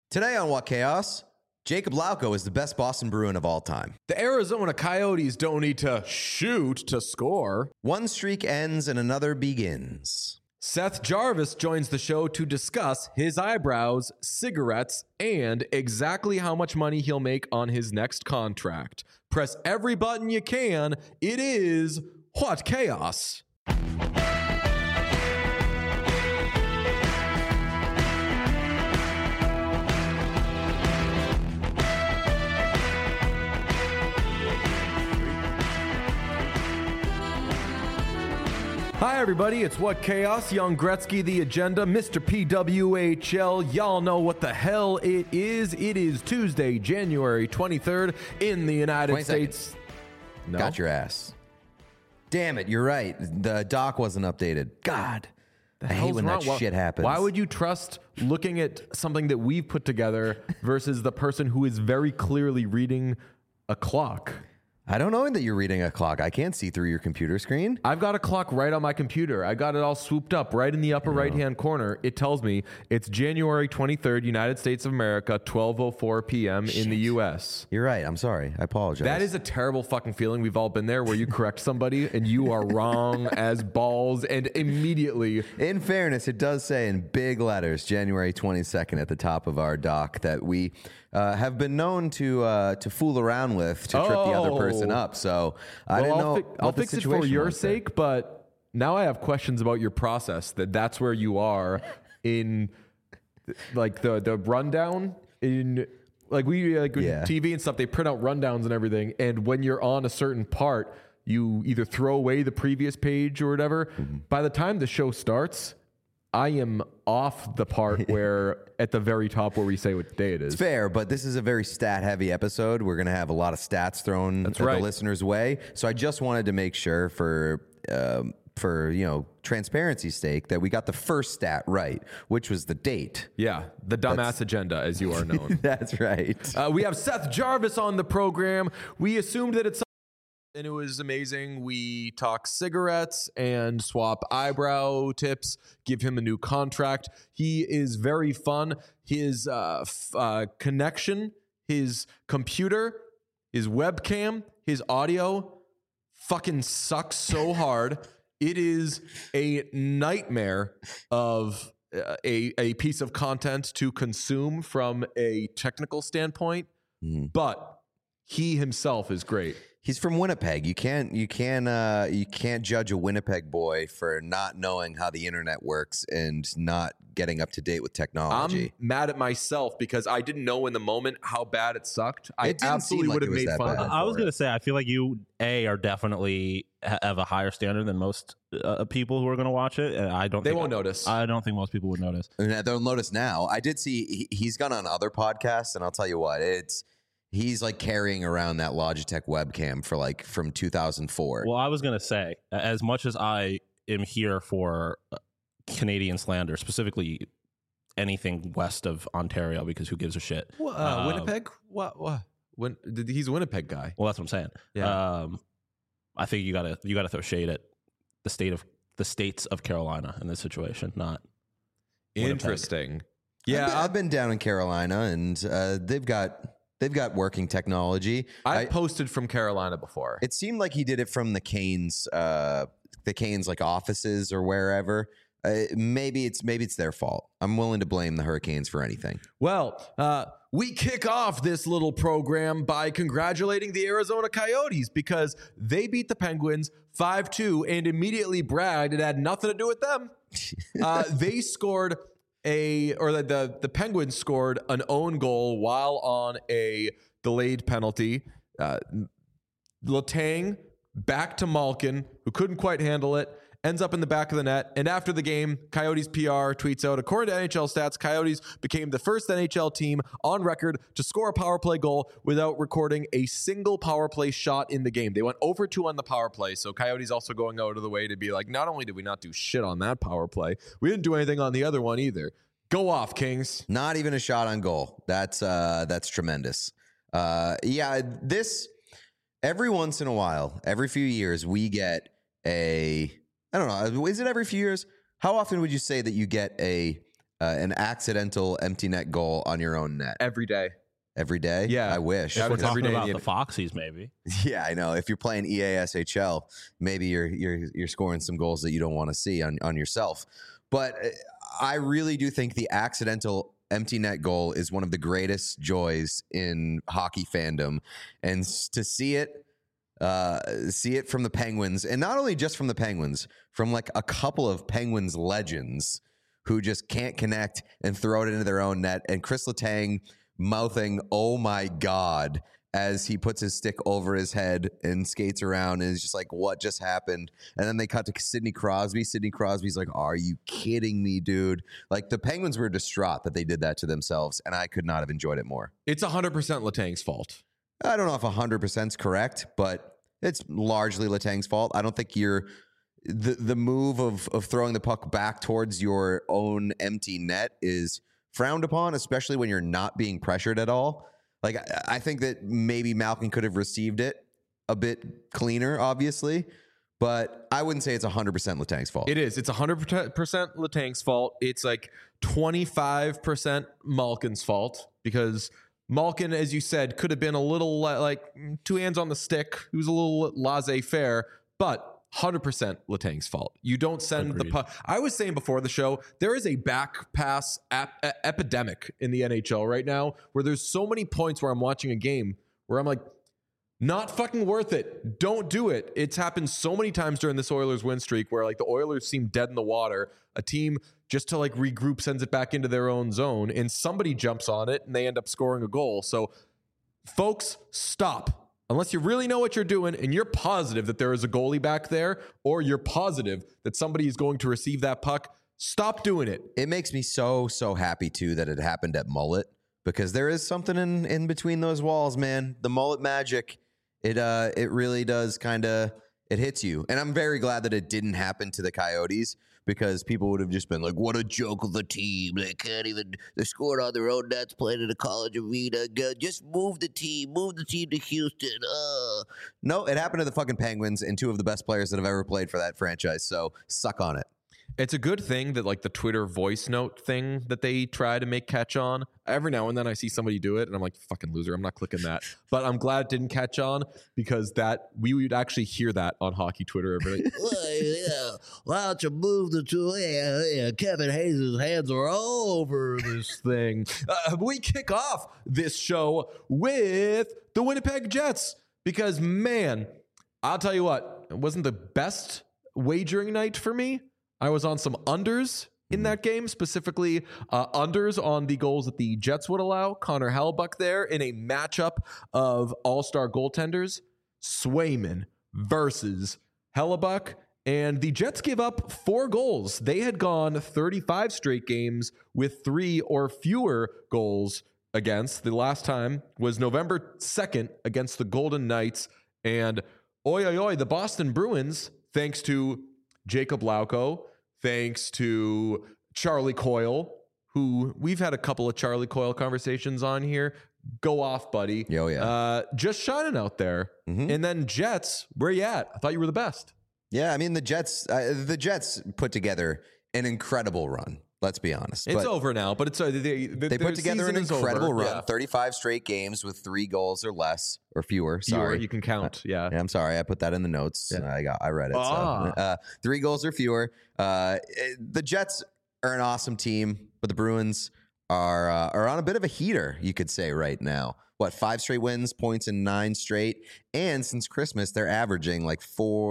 Today on What Chaos, Jacob Lauko is the best Boston Bruin of all time. The Arizona Coyotes don't need to shoot to score. One streak ends and another begins. Seth Jarvis joins the show to discuss his eyebrows, cigarettes, and exactly how much money he'll make on his next contract. Press every button you can. It is What Chaos. Hi, everybody. It's What Chaos. Young Gretzky, the agenda, Mr. PWHL. Y'all know what the hell it is. It is Tuesday, January 23rd in the United States. No? Got your ass. Damn it. You're right. The doc wasn't updated. God. I hate when that shit happens. Why would you trust looking at something that we've put together versus the person who is very clearly reading a clock? I don't know that you're reading a clock. I can't see through your computer screen. I've got a clock right on my computer. I got it all swooped up right in the upper right-hand corner. It tells me it's January 23rd, United States of America, 12:04 p.m. in the U.S. You're right. I'm sorry. I apologize. That is a terrible fucking feeling. We've all been there where you correct somebody and you are wrong as balls and immediately. In fairness, it does say in big letters, January 22nd at the top of our doc that we have been known to fool around with to trip the other person up. So I didn't know. I'll fix it for your sake, but now I have questions about your process. That's where you are in like the rundown in like TV and stuff. They print out rundowns and everything, and when you're on a certain part, you either throw away the previous page or whatever. Mm-hmm. By the time the show starts, I am off the part where at the very top where we say what day it is. It's fair, but this is a very stat-heavy episode. We're going to have a lot of stats thrown the listeners' way. So I just wanted to make sure for transparency's sake that we got the first stat right, which was the date. Yeah, the dumbass agenda, as you are known. That's right. We have Seth Jarvis on the program. We assumed that it's and it was amazing. We talk cigarettes and swap eyebrow tips, give him a new contract. He is very fun. His connection, his computer, his webcam, his audio fucking sucks so hard. It is a nightmare of a piece of content to consume from a technical standpoint, but he himself is great. He's from Winnipeg. You can't judge a Winnipeg boy for not knowing how the internet works and not getting up to date with technology. I'm mad at myself because I didn't know in the moment how bad it sucked. I absolutely would have made fun of it. I was going to say, I feel like you are definitely have a higher standard than most people who are going to watch it. And they won't notice. I don't think most people would notice. They'll notice now. I did see he's gone on other podcasts, and I'll tell you what, he's like carrying around that Logitech webcam from 2004. Well, I was going to say, as much as I am here for Canadian slander, specifically anything west of Ontario, because who gives a shit? Winnipeg? What? He's a Winnipeg guy. Well, that's what I'm saying. Yeah. I think you gotta throw shade at the states of Carolina in this situation, not interesting. Winnipeg. Yeah, I've been down in Carolina, and they've got working technology. I've posted from Carolina before. It seemed like he did it from the Canes like offices or wherever. Maybe it's their fault. I'm willing to blame the Hurricanes for anything. Well, we kick off this little program by congratulating the Arizona Coyotes because they beat the Penguins 5-2 and immediately bragged it had nothing to do with them. They scored the Penguins scored an own goal while on a delayed penalty. Letang back to Malkin, who couldn't quite handle it, ends up in the back of the net. And after the game, Coyotes PR tweets out, according to NHL stats, Coyotes became the first NHL team on record to score a power play goal without recording a single power play shot in the game. They went over 2 on the power play. So Coyotes also going out of the way to be like, not only did we not do shit on that power play, we didn't do anything on the other one either. Go off, Kings. Not even a shot on goal. That's tremendous. Every once in a while, every few years, we get I don't know, is it every few years? How often would you say that you get a an accidental empty net goal on your own net every day. every day. Yeah. I wish. If we're Every talking day about in the Foxies, maybe. Yeah, I know. If you're playing EASHL, maybe you're scoring some goals that you don't want to see on yourself. But I really do think the accidental empty net goal is one of the greatest joys in hockey fandom, and to see it from the Penguins, and not only just from the Penguins, from like a couple of Penguins legends who just can't connect and throw it into their own net, and Chris Letang mouthing, "Oh my God," as he puts his stick over his head and skates around, and is just like, what just happened? And then they cut to Sidney Crosby. Sidney Crosby's like, are you kidding me, dude? Like, the Penguins were distraught that they did that to themselves, and I could not have enjoyed it more. It's 100% Letang's fault. I don't know if 100% is correct, but it's largely Letang's fault. I don't think the move of throwing the puck back towards your own empty net is frowned upon, especially when you're not being pressured at all. Like, I think that maybe Malkin could have received it a bit cleaner, obviously, but I wouldn't say it's 100% Letang's fault. It is. It's 100% Letang's fault. It's like 25% Malkin's fault, because Malkin, as you said, could have been a little like two hands on the stick. He was a little laissez-faire, but 100% Letang's fault. You don't send the puck. I was saying before the show, there is a back pass epidemic in the NHL right now, where there's so many points where I'm watching a game where I'm like, not fucking worth it. Don't do it. It's happened so many times during this Oilers win streak where like the Oilers seem dead in the water. A team just to like regroup sends it back into their own zone, and somebody jumps on it and they end up scoring a goal. So folks, stop. Unless you really know what you're doing and you're positive that there is a goalie back there, or you're positive that somebody is going to receive that puck, stop doing it. It makes me so happy, too, that it happened at Mullet, because there is something in between those walls, man. The Mullet magic, it really does kind of, it hits you. And I'm very glad that it didn't happen to the Coyotes, because people would have just been like, what a joke of the team. They can't even, they scored on their own nets, playing in a college arena. Just move the team to Houston. No, it happened to the fucking Penguins and two of the best players that have ever played for that franchise. So suck on it. It's a good thing that like the Twitter voice note thing that they try to make catch on. Every now and then I see somebody do it and I'm like, fucking loser, I'm not clicking that. But I'm glad it didn't catch on, because that we would actually hear that on hockey Twitter every day. Why don't you move the two? Yeah, Kevin Hayes' hands are all over this thing. We kick off this show with the Winnipeg Jets, because man, I'll tell you what, it wasn't the best wagering night for me. I was on some unders in that game, specifically unders on the goals that the Jets would allow. Connor Hellebuyck there in a matchup of all-star goaltenders, Swayman versus Hellebuyck. And the Jets give up 4 goals. They had gone 35 straight games with 3 or fewer goals against. The last time was November 2nd against the Golden Knights. And the Boston Bruins, thanks to Jacob Lauko, thanks to Charlie Coyle, who we've had a couple of Charlie Coyle conversations on here. Go off, buddy. Oh, yeah. Just shining out there. Mm-hmm. And then Jets, where you at? I thought you were the best. Yeah, I mean, the Jets put together an incredible run. Let's be honest. It's over now, but it's they put together an incredible run. Yeah. 35 straight games with 3 goals or less or fewer. Sorry, you can count. Yeah, I'm sorry. I put that in the notes. Yeah. I read it. So. 3 goals or fewer. The Jets are an awesome team, but the Bruins are on a bit of a heater, you could say, right now. 5 straight wins, points in 9 straight, and since Christmas they're averaging like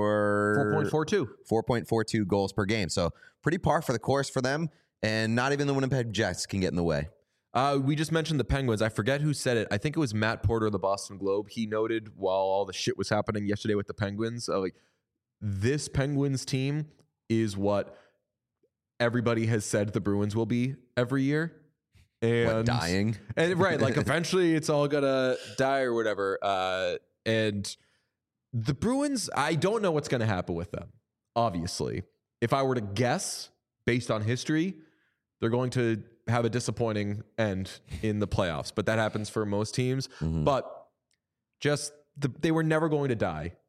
4.42 goals per game. So pretty par for the course for them. And not even the Winnipeg Jets can get in the way. We just mentioned the Penguins. I forget who said it. I think it was Matt Porter of the Boston Globe. He noted while all the shit was happening yesterday with the Penguins, like, this Penguins team is what everybody has said the Bruins will be every year. And dying. And right, like eventually it's all gonna die or whatever. And the Bruins, I don't know what's gonna happen with them. Obviously, if I were to guess based on history, they're going to have a disappointing end in the playoffs, but that happens for most teams. Mm-hmm. But just they were never going to die.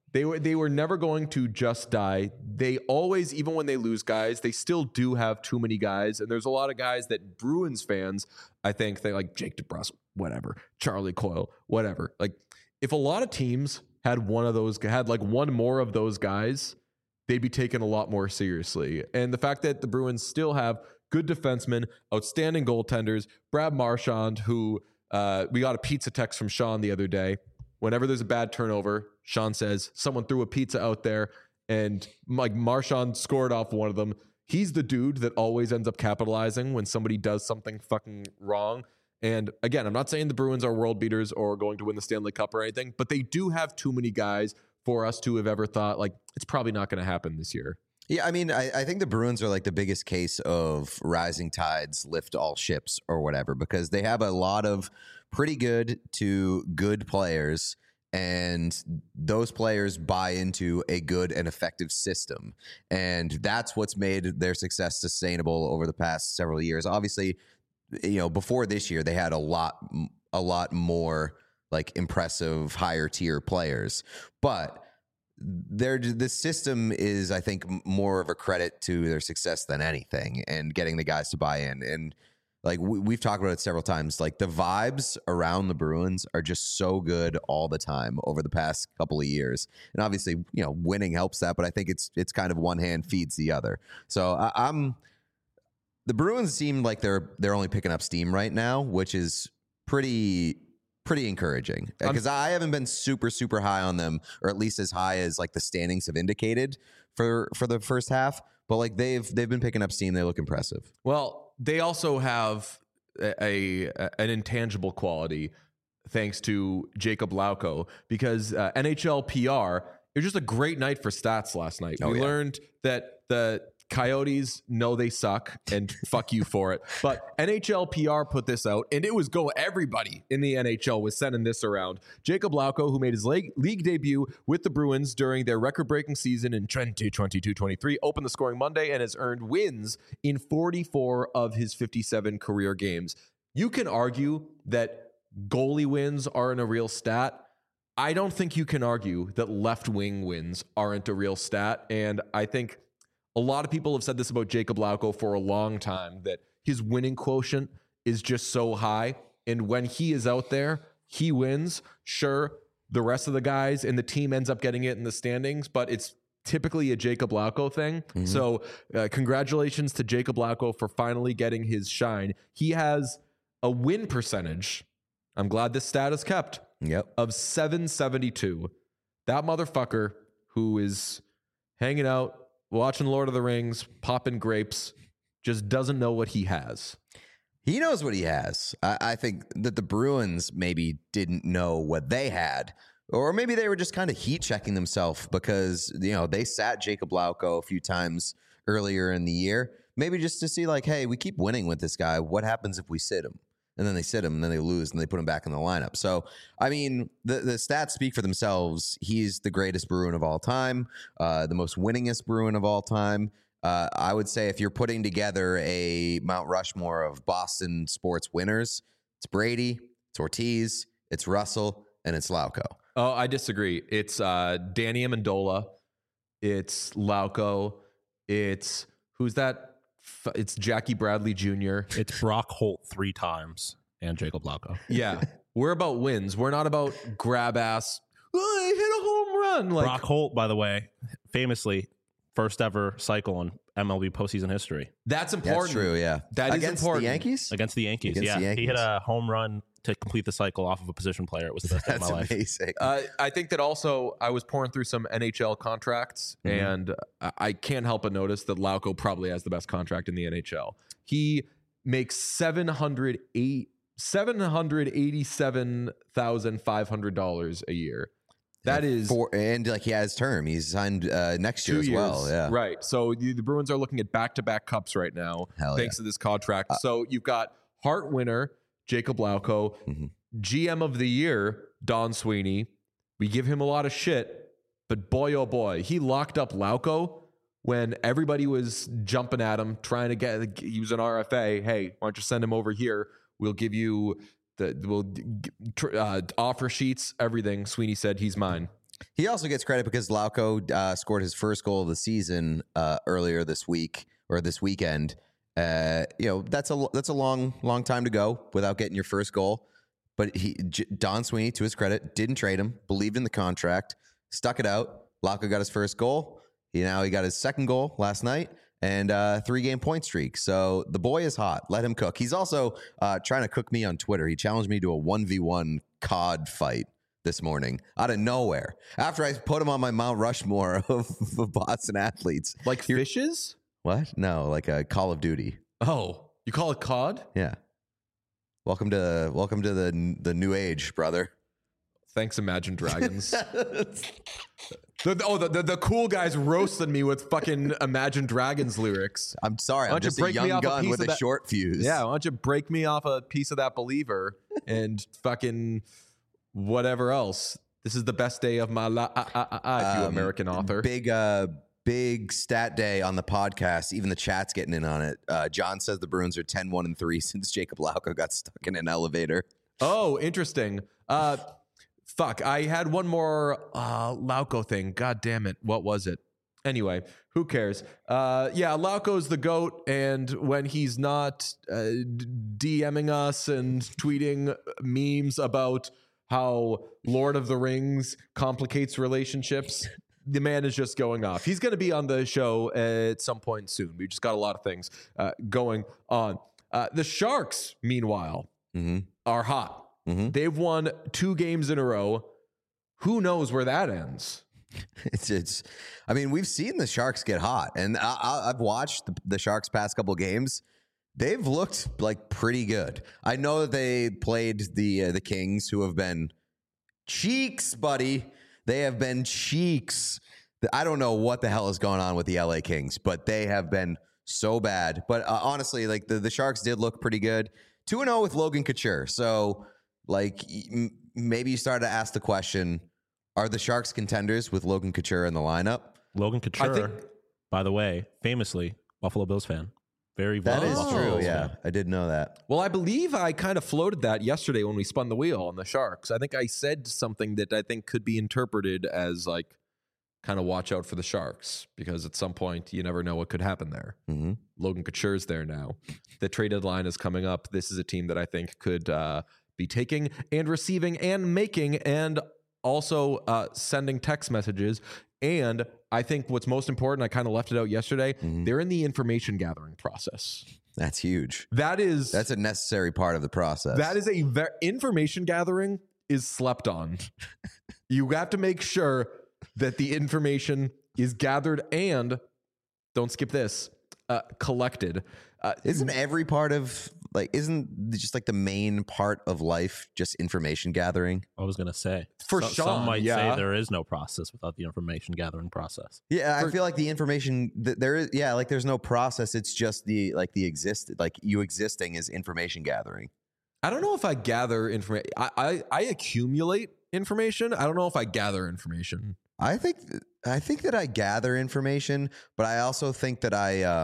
They were never going to just die. They always, even when they lose guys, they still do have too many guys. And there's a lot of guys that Bruins fans, I think, they like Jake DeBrusk, whatever, Charlie Coyle, whatever. Like, if a lot of teams had like one more of those guys, they'd be taken a lot more seriously. And the fact that the Bruins still have good defensemen, outstanding goaltenders, Brad Marchand, who we got a pizza text from Sean the other day. Whenever there's a bad turnover, Sean says someone threw a pizza out there and like Marchand scored off one of them. He's the dude that always ends up capitalizing when somebody does something fucking wrong. And again, I'm not saying the Bruins are world beaters or going to win the Stanley Cup or anything, but they do have too many guys for us to have ever thought like it's probably not going to happen this year. Yeah, I mean, I think the Bruins are like the biggest case of rising tides lift all ships or whatever, because they have a lot of pretty good to good players, and those players buy into a good and effective system. And that's what's made their success sustainable over the past several years. Obviously, before this year, they had a lot more like impressive higher tier players, but the system is, I think, more of a credit to their success than anything, and getting the guys to buy in. And like we've talked about it several times, like the vibes around the Bruins are just so good all the time over the past couple of years. And obviously, winning helps that, but I think it's kind of one hand feeds the other. So the Bruins seem like they're only picking up steam right now, which is pretty encouraging, because I haven't been super, super high on them, or at least as high as like the standings have indicated for the first half. But like they've been picking up steam. They look impressive. Well, they also have an intangible quality thanks to Jacob Lauko, because NHL PR, it was just a great night for stats last night. We learned that the Coyotes know they suck, and fuck you for it. But NHL PR put this out, and it was everybody in the NHL was sending this around. Jacob Lauko, who made his league debut with the Bruins during their record-breaking season in 2022-23, opened the scoring Monday and has earned wins in 44 of his 57 career games. You can argue that goalie wins aren't a real stat. I don't think you can argue that left wing wins aren't a real stat, and I think a lot of people have said this about Jacob Lauko for a long time, that his winning quotient is just so high. And when he is out there, he wins. Sure, the rest of the guys in the team ends up getting it in the standings, but it's typically a Jacob Lauko thing. Mm-hmm. So congratulations to Jacob Lauko for finally getting his shine. He has a win percentage, I'm glad this stat is kept, of 772. That motherfucker who is hanging out, watching Lord of the Rings, popping grapes, just doesn't know what he has. He knows what he has. I think that the Bruins maybe didn't know what they had, or maybe they were just kind of heat checking themselves because, they sat Jacob Lauko a few times earlier in the year, maybe just to see like, hey, we keep winning with this guy. What happens if we sit him? And then they sit him, and then they lose, and they put him back in the lineup. So, I mean, the stats speak for themselves. He's the greatest Bruin of all time, the most winningest Bruin of all time. I would say if you're putting together a Mount Rushmore of Boston sports winners, it's Brady, it's Ortiz, it's Russell, and it's Lauko. Oh, I disagree. It's Danny Amendola. It's Lauko. It's who's that? It's Jackie Bradley Jr. It's Brock Holt 3 times and Jacob Lauko. Yeah. We're about wins. We're not about grab ass. Oh, I hit a home run. Like Brock Holt, by the way, famously first ever cycle in MLB postseason history. That's important. That's true, yeah. That Against is important. the Yankees? Against the Yankees, Against the Yankees. He hit a home run to complete the cycle off of a position player. It was the best day of my life. That's amazing. I think that also I was pouring through some NHL contracts, and I can't help but notice that Lauko probably has the best contract in the NHL. He makes $787,500 a year. That is and like he has term. He's signed next year 2 as years. well. Yeah. Right. So the Bruins are looking at back-to-back cups right now, thanks to this contract. So you've got Hart winner Jacob Lauko, GM of the year Don Sweeney. We give him a lot of shit, but boy, oh boy, he locked up Lauko when everybody was jumping at him, trying to use an RFA. Hey, why don't you send him over here? We'll give you offer sheets, everything. Sweeney said he's mine. He also gets credit because Lauko scored his first goal of the season earlier this week or this weekend. That's a long time to go without getting your first goal. But Don Sweeney, to his credit, didn't trade him, believed in the contract, stuck it out. Lauko got his first goal. He got his second goal last night and 3-game point streak. So the boy is hot. Let him cook. He's also trying to cook me on Twitter. He challenged me to a 1v1 COD fight this morning out of nowhere after I put him on my Mount Rushmore of Boston athletes. Like fishes? What? No, like a Call of Duty. Oh, you call it COD? Yeah. Welcome to the new age, brother. Thanks, Imagine Dragons. The cool guys roasted me with fucking Imagine Dragons lyrics. I'm sorry, I'm just a young gun with a short fuse. Yeah, why don't you break me off a piece of that believer and fucking whatever else. This is the best day of my life, you American author. Big stat day on the podcast. Even the chat's getting in on it. John says the Bruins are 10-1-3 since Jacob Lauko got stuck in an elevator. Oh, interesting. Fuck, I had one more Lauko thing. God damn it. What was it? Anyway, who cares? Lauko's the GOAT, and when he's not DMing us and tweeting memes about how Lord of the Rings complicates relationships, the man is just going off. He's going to be on the show at some point soon. We just got a lot of things going on. The Sharks, meanwhile, are hot. Mm-hmm. They've won 2 games in a row. Who knows where that ends? I mean, we've seen the Sharks get hot, and I've watched the Sharks past couple games. They've looked like pretty good. I know that they played the Kings, who have been cheeks, buddy. They have been cheeks. I don't know what the hell is going on with the LA Kings, but they have been so bad. But honestly, like the Sharks did look pretty good. 2-0 with Logan Couture. So, like, maybe you started to ask the question, are the Sharks contenders with Logan Couture in the lineup? Logan Couture, by the way, famously Buffalo Bills fan. Very that is Buffalo true. Bills Yeah, fan. I did know that. Well, I believe I kind of floated that yesterday when we spun the wheel on the Sharks. I think I said something that I think could be interpreted as like kind of watch out for the Sharks, because at some point you never know what could happen there. Mm-hmm. Logan Couture's there now. The trade deadline is coming up. This is a team that I think could be taking and receiving and making and also sending text messages. And I think what's most important, I kind of left it out yesterday, they're in the information gathering process. That's huge. That's a necessary part of the process. That is information gathering is slept on. You have to make sure that the information is gathered and, don't skip this, collected. Isn't every part of, like, isn't just like the main part of life just information gathering? I was going to say. For Sean, some might say there is no process without the information gathering process. Yeah, I feel like the information there is. Yeah, like there's no process. It's just you existing is information gathering. I don't know if I gather information. I accumulate information. I don't know if I gather information. I think that I gather information, but I also think that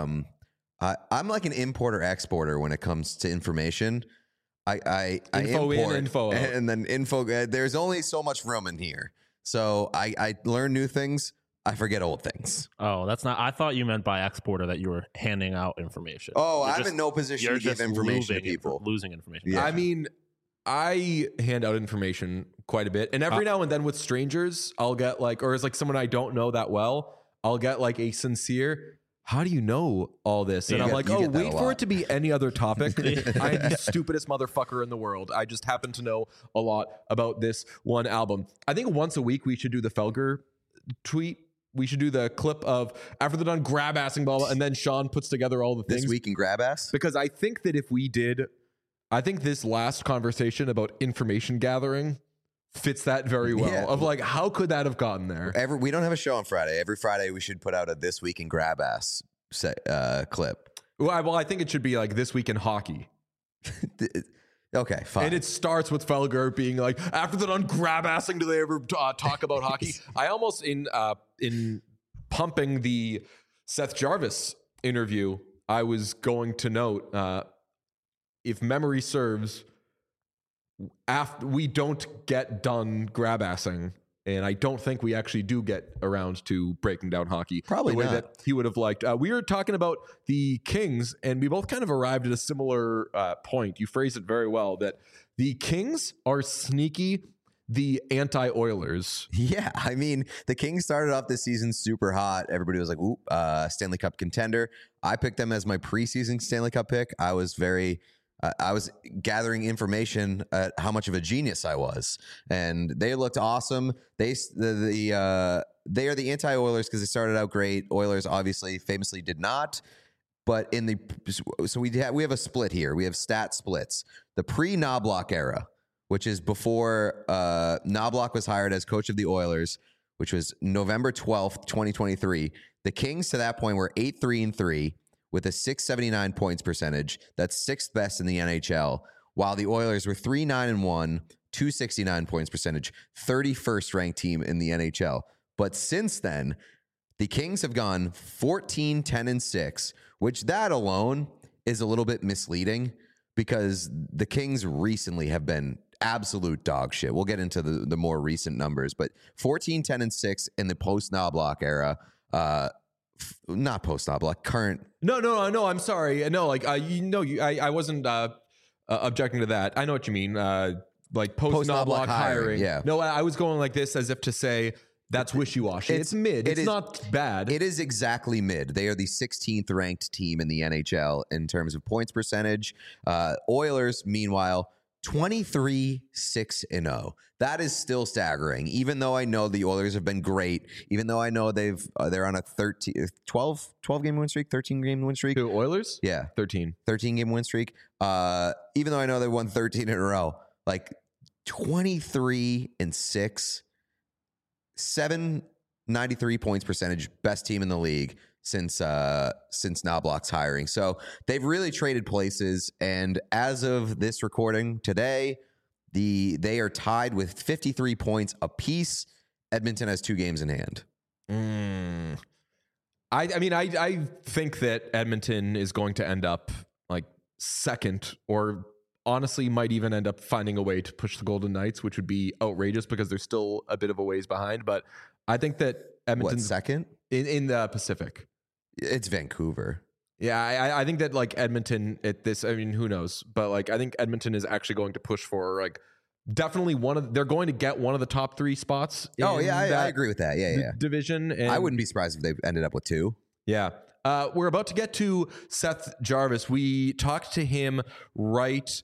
I'm like an importer exporter when it comes to information. I import info out. And then info. There's only so much room in here, so I learn new things. I forget old things. Oh, that's not. I thought you meant by exporter that you were handing out information. Oh, I'm in no position to give information to people. Losing information. Yeah. I mean, I hand out information quite a bit, and every now and then with strangers, I'll get like, or it's like someone I don't know that well, I'll get like a sincere, how do you know all this? And I'm like, oh, wait for it to be any other topic. I am the stupidest motherfucker in the world. I just happen to know a lot about this one album. I think once a week we should do the Felger tweet. We should do the clip of after they're done grab-assing blah, blah, and then Sean puts together all the things. This week in grab-ass? Because I think that if we did, I think this last conversation about information gathering fits that very well. Yeah. Of like, how could that have gotten there? We don't have a show on Friday. Every Friday we should put out a This Week in Grab-Ass clip. Well, I think it should be like This Week in Hockey. Okay, fine. And it starts with Felger being like, after they're done grab-assing, do they ever talk about hockey? I almost, in pumping the Seth Jarvis interview, I was going to note, if memory serves, after we don't get done grab-assing And I don't think we actually do get around to breaking down hockey Probably the way not. that he would have liked. We were talking about the Kings, and we both kind of arrived at a similar point. You phrased it very well, that the Kings are sneaky, the anti-Oilers. Yeah, I mean, the Kings started off this season super hot. Everybody was like, ooh, Stanley Cup contender. I picked them as my preseason Stanley Cup pick. I was gathering information at how much of a genius I was, and they looked awesome. They are the anti-Oilers because they started out great. Oilers obviously famously did not. But we have a split here. We have stat splits. The pre-Knobloch era, which is before Knobloch was hired as coach of the Oilers, which was November 12th, 2023. The Kings to that point were 8-3-3 with a 679 points percentage. That's sixth best in the NHL, while the Oilers were 3-9-1, 269 points percentage, 31st ranked team in the NHL. But since then, the Kings have gone 14-10-6, which that alone is a little bit misleading because the Kings recently have been absolute dog shit. We'll get into the more recent numbers, but 14-10-6 in the post-Knobloch era, not post-Knobloch, current. No, I'm sorry. No, like, I wasn't objecting to that. I know what you mean. Like post-Knobloch hiring. Yeah. No, I was going like this as if to say, that's wishy-washy. It's mid. It's not bad. It is exactly mid. They are the 16th ranked team in the NHL in terms of points percentage. Oilers, meanwhile, 23-6-0. That is still staggering. Even though I know the Oilers have been great, even though I know they're on a 12 game win streak, 13 game win streak. The Oilers? Yeah, 13 game win streak. Even though I know they won 13 in a row, like 23-6. 793 points percentage, best team in the league since Knobloch's hiring. So they've really traded places, and as of this recording today, they are tied with 53 points apiece. Edmonton has 2 games in hand. I mean, I think that Edmonton is going to end up like second, or honestly might even end up finding a way to push the Golden Knights, which would be outrageous because they're still a bit of a ways behind. But I think that Edmonton's second in the Pacific. It's Vancouver. Yeah, I think that like Edmonton at this, I mean, who knows? But like, I think Edmonton is actually going to push for like definitely they're going to get one of the top 3 spots. Oh yeah, I agree with that. Yeah. Division. And I wouldn't be surprised if they ended up with 2. Yeah. We're about to get to Seth Jarvis. We talked to him right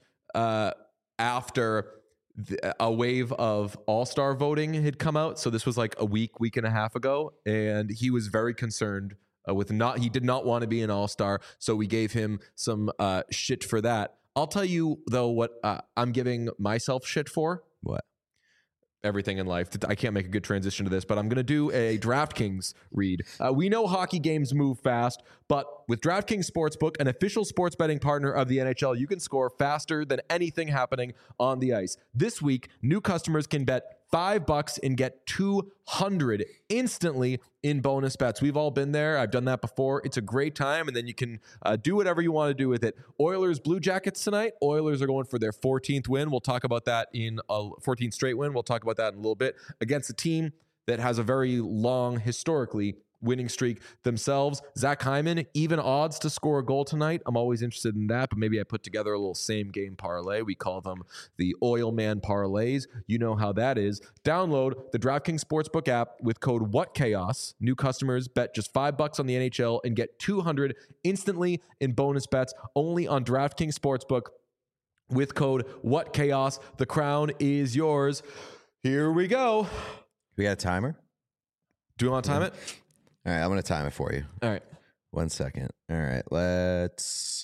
after a wave of all-star voting had come out. So this was like a week and a half ago. And he was very concerned he did not want to be an all-star. So we gave him some shit for that. I'll tell you, though, what I'm giving myself shit for. What? Everything in life. I can't make a good transition to this, but I'm going to do a DraftKings read. We know hockey games move fast, but with DraftKings Sportsbook, an official sports betting partner of the NHL, you can score faster than anything happening on the ice. This week, new customers can bet $5 and get $200 instantly in bonus bets. We've all been there. I've done that before. It's a great time, and then you can do whatever you want to do with it. Oilers Blue Jackets tonight. Oilers are going for their 14th win. We'll talk about that in a 14th straight win. We'll talk about that in a little bit against a team that has a very long, historically winning streak themselves. Zach Hyman, even odds to score a goal tonight. I'm always interested in that, but maybe I put together a little same game parlay. We call them the Oil Man parlays. You know how that is. Download the DraftKings Sportsbook app with code WhatChaos. New customers bet just $5 on the NHL and get $200 instantly in bonus bets only on DraftKings Sportsbook with code WhatChaos. The crown is yours. Here we go. We got a timer? Do you want to time it? All right, I'm going to time it for you. All right. 1 second. All right, let's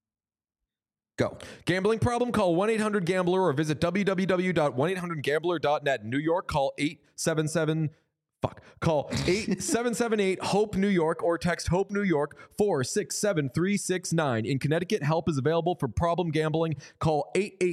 go. Gambling problem? Call 1-800-GAMBLER or visit www.1800gambler.net. New York, call Call 778-HOPE-NEW YORK or text HOPE New York 467-369. In Connecticut, help is available for problem gambling. Call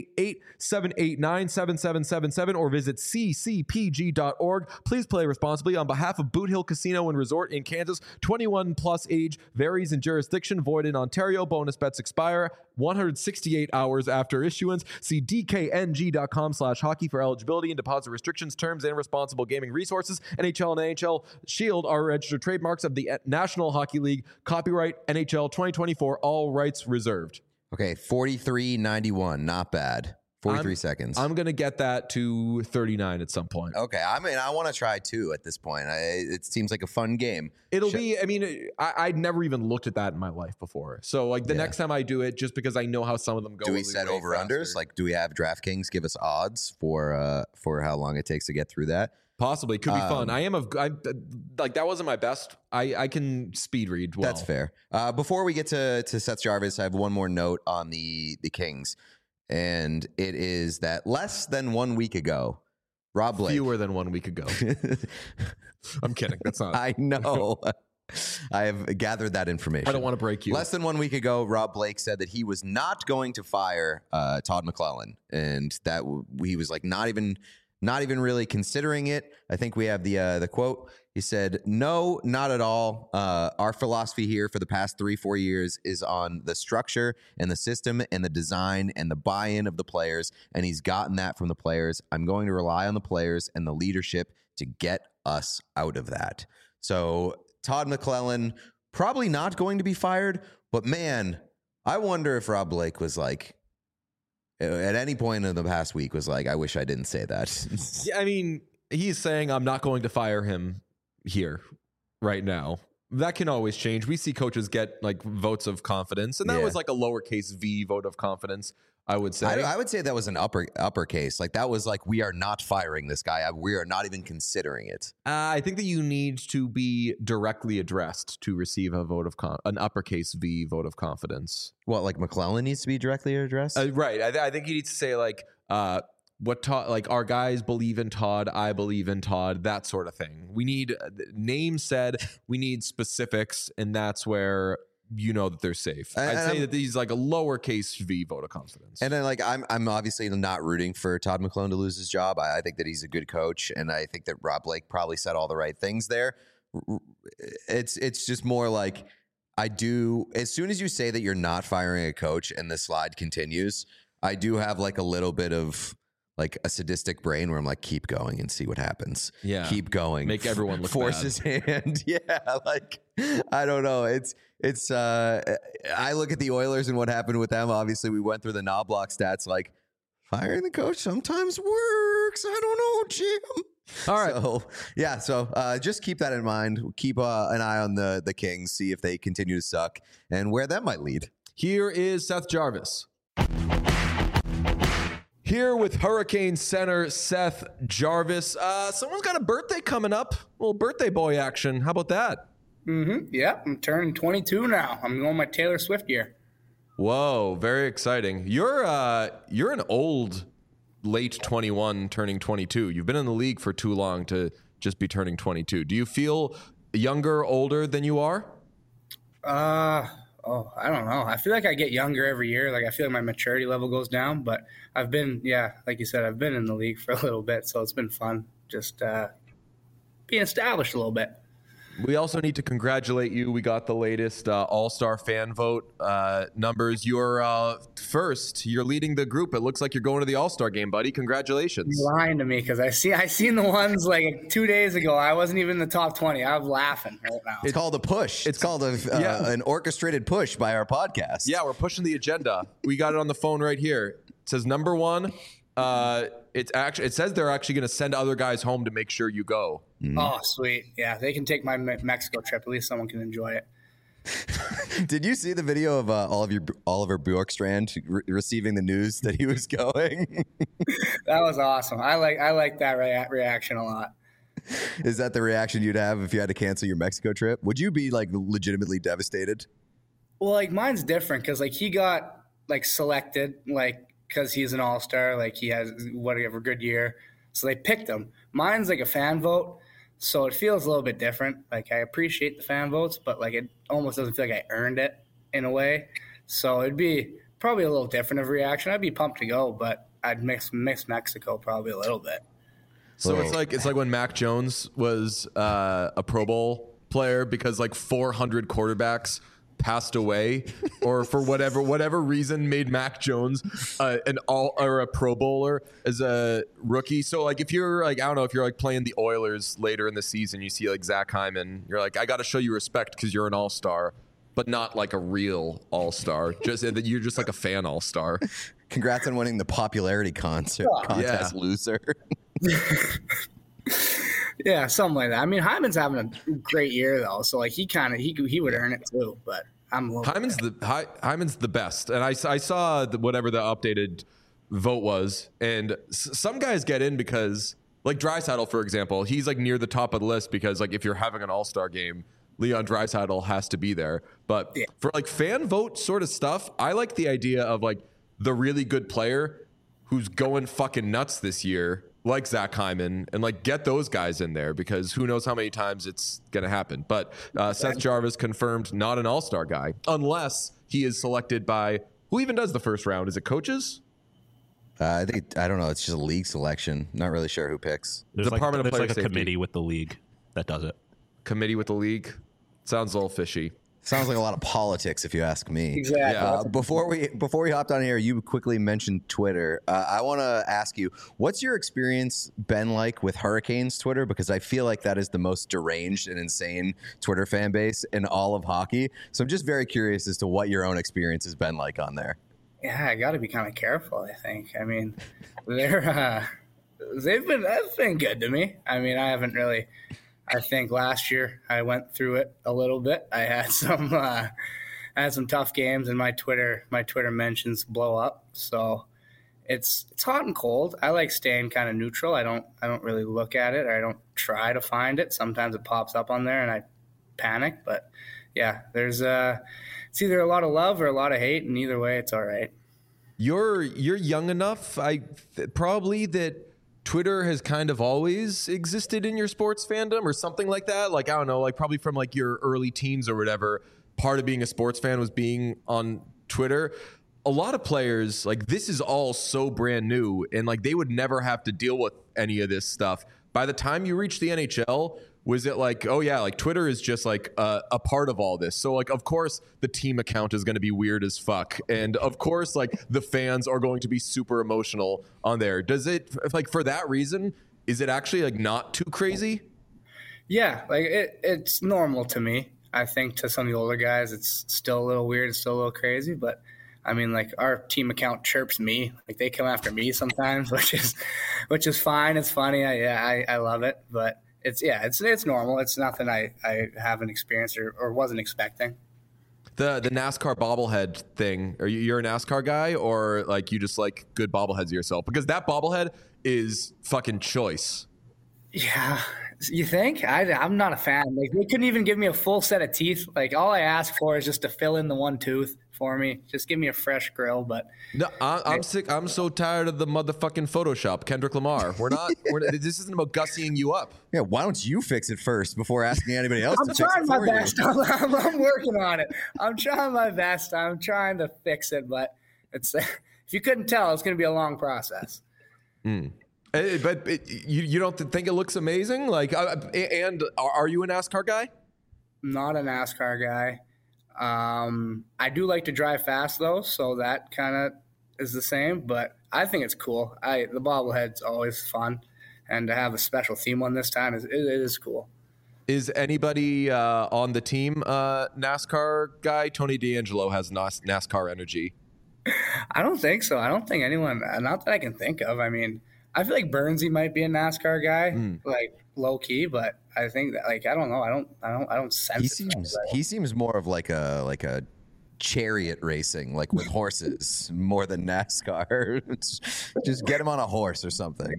888-789-7777 or visit ccpg.org. Please play responsibly. On behalf of Boot Hill Casino and Resort in Kansas, 21 plus age, varies in jurisdiction, void in Ontario. Bonus bets expire 168 hours after issuance. See dkng.com/hockey for eligibility and deposit restrictions, terms, and responsible gaming resources. NHL and NHL Shield are registered trademarks of the National Hockey League. Copyright NHL 2024. All rights reserved. Okay, 43.91. Not bad. 43 seconds. I'm going to get that to 39 at some point. Okay, I mean, I want to try 2 at this point. It seems like a fun game. It'll be, I mean, I'd never even looked at that in my life before. So, like, the next time I do it, just because I know how some of them go. Do we set over-unders? Like, do we have DraftKings give us odds for how long it takes to get through that? Possibly. Could be fun. Like, that wasn't my best. I can speed read well. That's fair. Before we get to Seth Jarvis, I have one more note on the Kings. And it is that less than 1 week ago, Rob Blake. Fewer than 1 week ago. I'm kidding. That's not. I know. I have gathered that information. I don't want to break you. Less than 1 week ago, Rob Blake said that he was not going to fire Todd McLellan, and that he was like not even really considering it. I think we have the quote. He said, "No, not at all. Our philosophy here for the past 3-4 years is on the structure and the system and the design and the buy-in of the players, and he's gotten that from the players. I'm going to rely on the players and the leadership to get us out of that." So Todd McLellan probably not going to be fired, but man, I wonder if Rob Blake was like, at any point in the past week, was like, I wish I didn't say that. Yeah, I mean, he's saying I'm not going to fire him here right now. That can always change. We see coaches get like votes of confidence, and that was like a lowercase v vote of confidence, I would say. I would say that was an uppercase. Like, that was like, we are not firing this guy. We are not even considering it. I think that you need to be directly addressed to receive a vote of an uppercase v vote of confidence. What, like McLellan needs to be directly addressed? Right. I think you need to say like, what Todd, like, our guys believe in Todd, I believe in Todd, that sort of thing. We need names said, we need specifics, and that's where you know that they're safe. I'd say that he's like a lowercase v vote of confidence. And then, like, I'm obviously not rooting for Todd McLellan to lose his job. I think that he's a good coach, and I think that Rob Blake probably said all the right things there. It's just more like, I do, as soon as you say that you're not firing a coach and the slide continues, I do have like a little bit of like a sadistic brain where I'm like, keep going and see what happens. Yeah. Keep going. Make everyone look Force bad. his hand. Yeah. Like, I don't know. I look at the Oilers and what happened with them. Obviously, we went through the Knobloch stats. Like, firing the coach sometimes works. I don't know, Jim. All right. So just keep that in mind. Keep an eye on the Kings, see if they continue to suck and where that might lead. Here is Seth Jarvis. Here with Hurricane Center Seth Jarvis. Someone's got a birthday coming up. A little birthday boy action. How about that? Mm-hmm. Yeah, I'm turning 22 now. I'm going my Taylor Swift year. Whoa, very exciting. You're an old, late 21, turning 22. You've been in the league for too long to just be turning 22. Do you feel younger, older than you are? I don't know. I feel like I get younger every year. Like, I feel like my maturity level goes down, but I've been, like you said, I've been in the league for a little bit, so it's been fun just being established a little bit. We also need to congratulate you. We got the latest All-Star fan vote numbers. You're first. You're leading the group. It looks like you're going to the All-Star game, buddy. Congratulations. You're lying to me because I seen the ones like 2 days ago. I wasn't even in the top 20. I was laughing right now. It's called a push. It's called an orchestrated push by our podcast. Yeah, we're pushing the agenda. We got it on the phone right here. It says number one. It says they're actually going to send other guys home to make sure you go. Mm-hmm. Oh, sweet. Yeah, they can take my Mexico trip. At least someone can enjoy it. Did you see the video of Oliver Bjorkstrand receiving the news that he was going? That was awesome. I like that reaction a lot. Is that the reaction you'd have if you had to cancel your Mexico trip? Would you be like legitimately devastated? Well, like, mine's different because like he got like selected like because he's an all-star, like he has whatever good year, so they picked him. Mine's like a fan vote. So it feels a little bit different. Like, I appreciate the fan votes, but like it almost doesn't feel like I earned it in a way. So it'd be probably a little different of a reaction. I'd be pumped to go, but I'd miss Mexico probably a little bit. So it's like when Mac Jones was a Pro Bowl player because like 400 quarterbacks passed away, or for whatever reason made Mac Jones a Pro Bowler as a rookie. So like if you're like, I don't know, if you're like playing the Oilers later in the season, you see like Zach Hyman, you're like, I got to show you respect because you're an all-star, but not like a real all-star. Just that you're just like a fan all-star. Congrats on winning the popularity contest, loser. Yeah, something like that. I mean, Hyman's having a great year though, so like he would earn it too. But Hyman's the best, and I saw whatever the updated vote was, and some guys get in because like Draisaitl, for example, he's like near the top of the list because like if you're having an all-star game, Leon Draisaitl has to be there. But for like fan vote sort of stuff, I like the idea of like the really good player who's going fucking nuts this year, like Zach Hyman, and like get those guys in there because who knows how many times it's going to happen. But Seth Jarvis confirmed not an all-star guy unless he is selected by who even does the first round? Is it coaches? I don't know. It's just a league selection. Not really sure who picks. There's Department of Player like a Safety. committee with the league that does it. Committee with the league? Sounds a little fishy. Sounds like a lot of politics, if you ask me. Exactly. Before we hopped on here, you quickly mentioned Twitter. I want to ask you, what's your experience been like with Hurricanes Twitter? Because I feel like that is the most deranged and insane Twitter fan base in all of hockey. So I'm just very curious as to what your own experience has been like on there. Yeah, I got to be kind of careful, I think. I mean, they've been good to me. I mean, I haven't really. I think last year I went through it a little bit. I had some tough games, and my Twitter mentions blow up. So it's hot and cold. I like staying kind of neutral. I don't really look at it, or I don't try to find it. Sometimes it pops up on there, and I panic. But yeah, there's it's either a lot of love or a lot of hate, and either way, it's all right. You're young enough, probably that Twitter has kind of always existed in your sports fandom or something like that. Like, I don't know, like probably from like your early teens or whatever, part of being a sports fan was being on Twitter. A lot of players, like this is all so brand new and like they would never have to deal with any of this stuff. By the time you reach the NHL, was it like, oh yeah, like Twitter is just like a part of all this. So like, of course the team account is going to be weird as fuck. And of course, like the fans are going to be super emotional on there. Does it, like for that reason, is it actually like not too crazy? Yeah, like it's normal to me. I think to some of the older guys, it's still a little weird. It's still a little crazy, but I mean, like our team account chirps me, like they come after me sometimes, which is fine. It's funny. I love it, but it's normal. It's nothing I haven't experienced or wasn't expecting. The NASCAR bobblehead thing. You're a NASCAR guy, or like you just like good bobbleheads yourself? Because that bobblehead is fucking choice. Yeah, you think? I'm not a fan. Like they couldn't even give me a full set of teeth. Like all I ask for is just to fill in the one tooth for me. Just give me a fresh grill. But no, I'm sick. I'm so tired of the motherfucking Photoshop. Kendrick Lamar. This isn't about gussying you up. Yeah, why don't you fix it first before asking anybody else I'm to fix it trying my for you? best. I'm working on it. I'm trying my best. I'm trying to fix it, but it's if you couldn't tell, it's going to be a long process. But you don't think it looks amazing? Like, and are you a NASCAR guy? Not a NASCAR guy. I do like to drive fast though, so that kind of is the same. But I think it's cool. The bobblehead's always fun, and to have a special theme one this time it is cool. Is anybody on the team NASCAR guy? Tony D'Angelo has NASCAR energy. I don't think so. I don't think anyone. Not that I can think of. I mean, I feel like Burnsy might be a NASCAR guy, like low key, but I think that like I don't know. I don't sense. He seems more of like a chariot racing, like with horses, more than NASCAR. Just get him on a horse or something.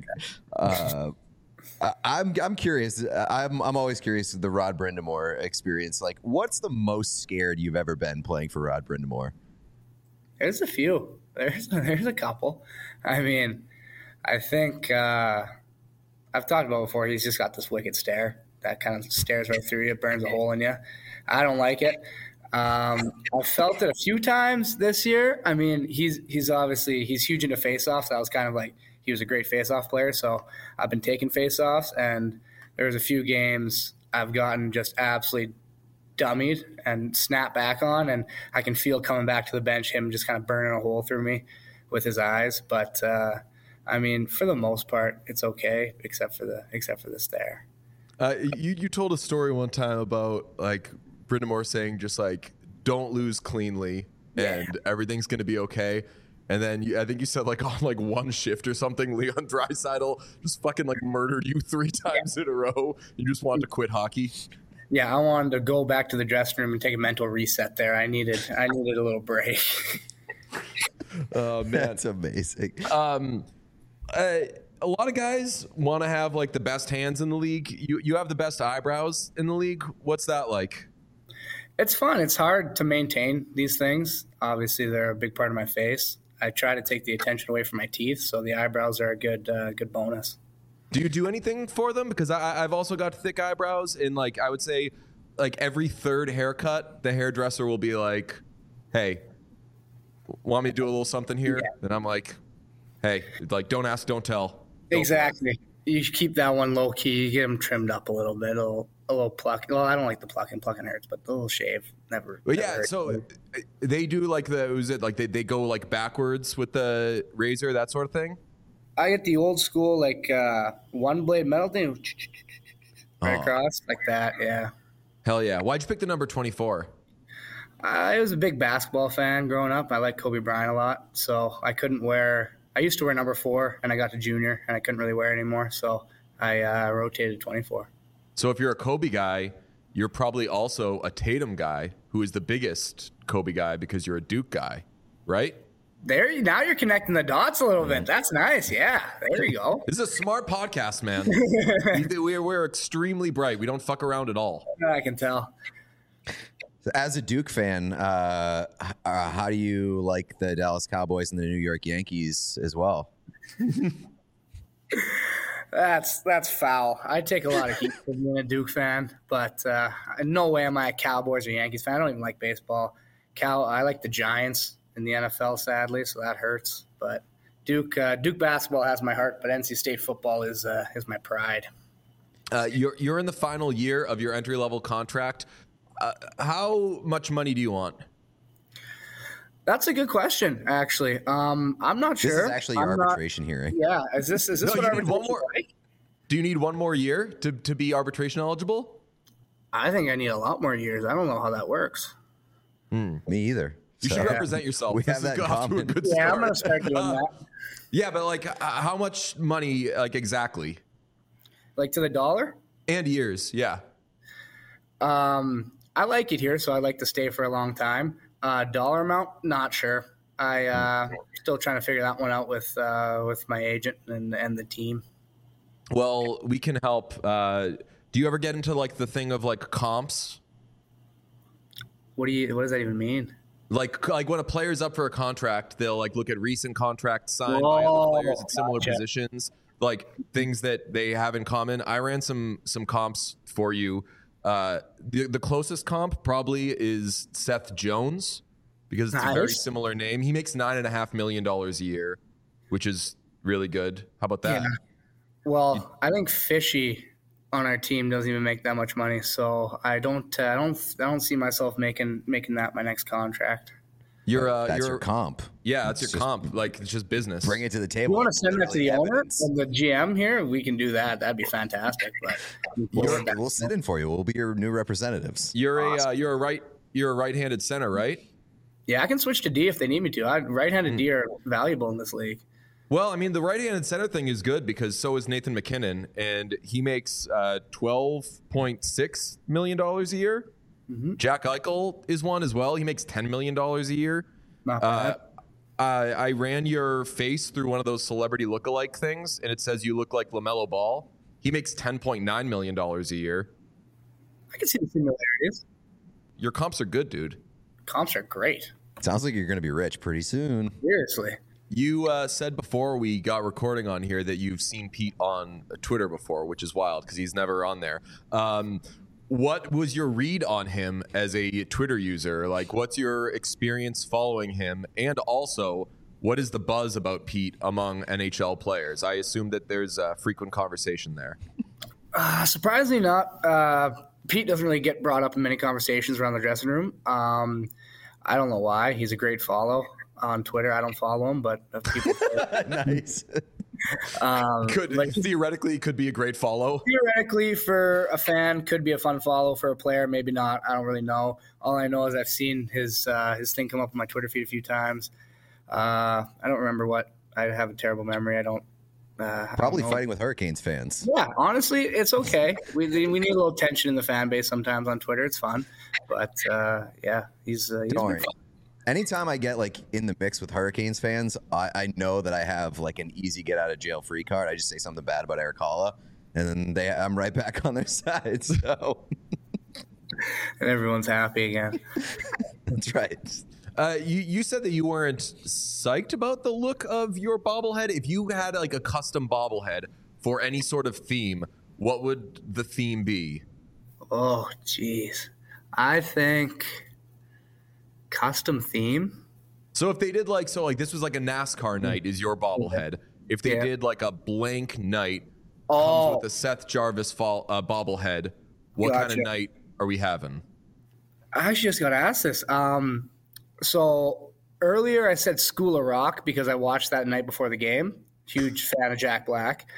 I'm curious. I'm always curious the Rod Brind'Amour experience. Like, what's the most scared you've ever been playing for Rod Brind'Amour? There's a few. There's a couple. I mean, I think I've talked about before. He's just got this wicked stare. that kind of stares right through you, burns a hole in you. I don't like it. I felt it a few times this year. I mean, he's obviously huge into faceoffs. That was kind of like he was a great faceoff player. So I've been taking faceoffs, and there was a few games I've gotten just absolutely dummied and snapped back on, and I can feel coming back to the bench him just kind of burning a hole through me with his eyes. But I mean, for the most part, it's okay, except for the stare. You told a story one time about like Brind'Amour saying just like don't lose cleanly and everything's gonna be okay. And then I think you said like on like one shift or something, Leon Draisaitl just fucking like murdered you 3 times in a row. You just wanted to quit hockey. Yeah, I wanted to go back to the dressing room and take a mental reset there. I needed a little break. Oh man, That's amazing. A lot of guys want to have like the best hands in the league. You have the best eyebrows in the league. What's that like? It's fun. It's hard to maintain these things. Obviously, they're a big part of my face. I try to take the attention away from my teeth, so the eyebrows are a good bonus. Do you do anything for them? Because I've also got thick eyebrows, and like I would say, like every third haircut, the hairdresser will be like, "Hey, want me to do a little something here?" Yeah. And I'm like, "Hey, like don't ask, don't tell." Exactly. You should keep that one low key. You get them trimmed up a little bit, a little pluck. Well, I don't like the plucking. Plucking hurts, but the little shave never. Well, never yeah. hurts. So they do like they go like backwards with the razor, that sort of thing. I get the old school like one blade metal thing, right across like that. Yeah. Hell yeah! Why'd you pick the number 24? I was a big basketball fan growing up. I liked Kobe Bryant a lot, so I couldn't wear. I used to wear number 4, and I got to junior, and I couldn't really wear it anymore, so I rotated 24. So if you're a Kobe guy, you're probably also a Tatum guy, who is the biggest Kobe guy because you're a Duke guy, right? Now you're connecting the dots a little bit. That's nice. Yeah, there you go. This is a smart podcast, man. We're extremely bright. We don't fuck around at all. I can tell. As a Duke fan, how do you like the Dallas Cowboys and the New York Yankees as well? That's foul. I take a lot of heat for being a Duke fan, but no way am I a Cowboys or Yankees fan. I don't even like baseball. I like the Giants in the NFL, sadly, so that hurts. But Duke basketball has my heart, but NC State football is my pride. You're in the final year of your entry-level contract. How much money do you want? That's a good question, actually. I'm not sure. This is actually your arbitration hearing. Yeah, is this what arbitration is like? Do you need one more year to be arbitration eligible? I think I need a lot more years. I don't know how that works. Me either. You should represent yourself. We have that in common. Yeah, I'm going to start doing that. Yeah, but like how much money, like exactly? Like to the dollar? And years, yeah. I like it here, so I like to stay for a long time. Dollar amount, not sure. I still trying to figure that one out with my agent and the team. Well, we can help. Do you ever get into like the thing of like comps? What does that even mean? Like when a player's up for a contract, they'll like look at recent contracts signed by other players at similar positions, like things that they have in common. I ran some comps for you. The closest comp probably is Seth Jones because it's a very similar name. He makes $9.5 million a year, which is really good. How about that? Yeah. Well, I think Fishy on our team doesn't even make that much money, so I don't see myself making that my next contract. That's your comp. Yeah, that's your comp. Like it's just business. Bring it to the table. You want to send that to the owner and the GM here? We can do that. That'd be fantastic. But we'll sit in for you. We'll be your new representatives. You're a right-handed center, right? Yeah, I can switch to D if they need me to. Right-handed D are valuable in this league. Well, I mean, the right-handed center thing is good because so is Nathan McKinnon, and he makes $12.6 million a year. Mm-hmm. Jack Eichel is one as well. He makes $10 million a year. Not bad. I ran your face through one of those celebrity lookalike things, and it says you look like LaMelo Ball. He makes $10.9 million a year. I can see the similarities. Your comps are good, dude. Comps are great. Sounds like you're going to be rich pretty soon. Seriously. You said before we got recording on here that you've seen Pete on Twitter before, which is wild because he's never on there. What was your read on him as a Twitter user? Like, what's your experience following him? And also, what is the buzz about Pete among NHL players? I assume that there's a frequent conversation there. Surprisingly not. Pete doesn't really get brought up in many conversations around the dressing room. I don't know why. He's a great follow on Twitter. I don't follow him, but people. Nice. Theoretically, could be a great follow. Theoretically, for a fan, could be a fun follow. For a player, maybe not. I don't really know. All I know is I've seen his thing come up on my Twitter feed a few times. I don't remember what. I have a terrible memory. I don't. Probably fighting with Hurricanes fans. Yeah, honestly, it's okay. We need a little tension in the fan base sometimes on Twitter. It's fun, but he's Don't worry. Anytime I get like in the mix with Hurricanes fans, I know that I have like an easy get out of jail free card. I just say something bad about Eric Halla, and then I'm right back on their side. So, and everyone's happy again. That's right. You said that you weren't psyched about the look of your bobblehead. If you had like a custom bobblehead for any sort of theme, what would the theme be? Oh, jeez. I think custom theme. So if they did like this was like a NASCAR night is your bobblehead. If they did like a blank night comes with the Seth Jarvis bobblehead, what kind of night are we having? I actually just got to ask this. So earlier I said School of Rock because I watched that night before the game. Huge fan of Jack Black.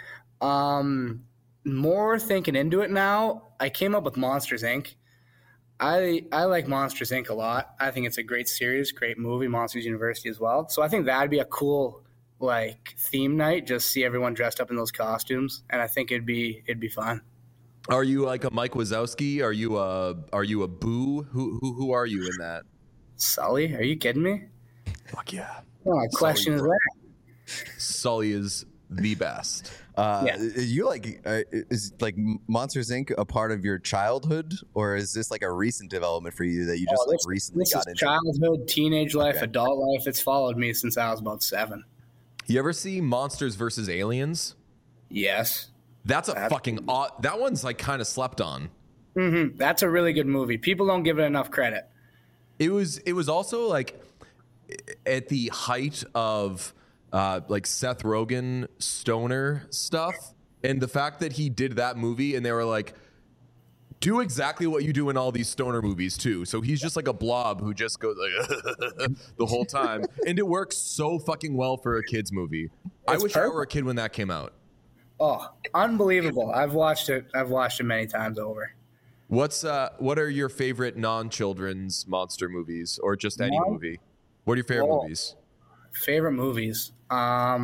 More thinking into it now, I came up with Monsters, Inc. I like Monsters, Inc. a lot. I think it's a great series, great movie, Monsters University as well. So I think that'd be a cool like theme night, just see everyone dressed up in those costumes, and I think it'd be fun. Are you like a Mike Wazowski? Are you a Boo? Who are you in that? Sully? Are you kidding me? Fuck yeah. What question is that? Sully is the best. You like is like Monsters Inc. a part of your childhood, or is this like a recent development for you that you just recently got into? Childhood, teenage life, adult life. It's followed me since I was about 7. You ever see Monsters vs. Aliens? Yes. That's a fucking that one's like kind of slept on. Mm-hmm. That's a really good movie. People don't give it enough credit. It was also like at the height of like Seth Rogen stoner stuff, and the fact that he did that movie and they were like, do exactly what you do in all these stoner movies too. So he's just like a blob who just goes like the whole time, and it works so fucking well for a kids movie. I wish I were a kid when that came out. Oh, unbelievable. I've watched it many times over. What are your favorite non-children's monster movies, or just any movie? What are your favorite movies? Favorite movies. I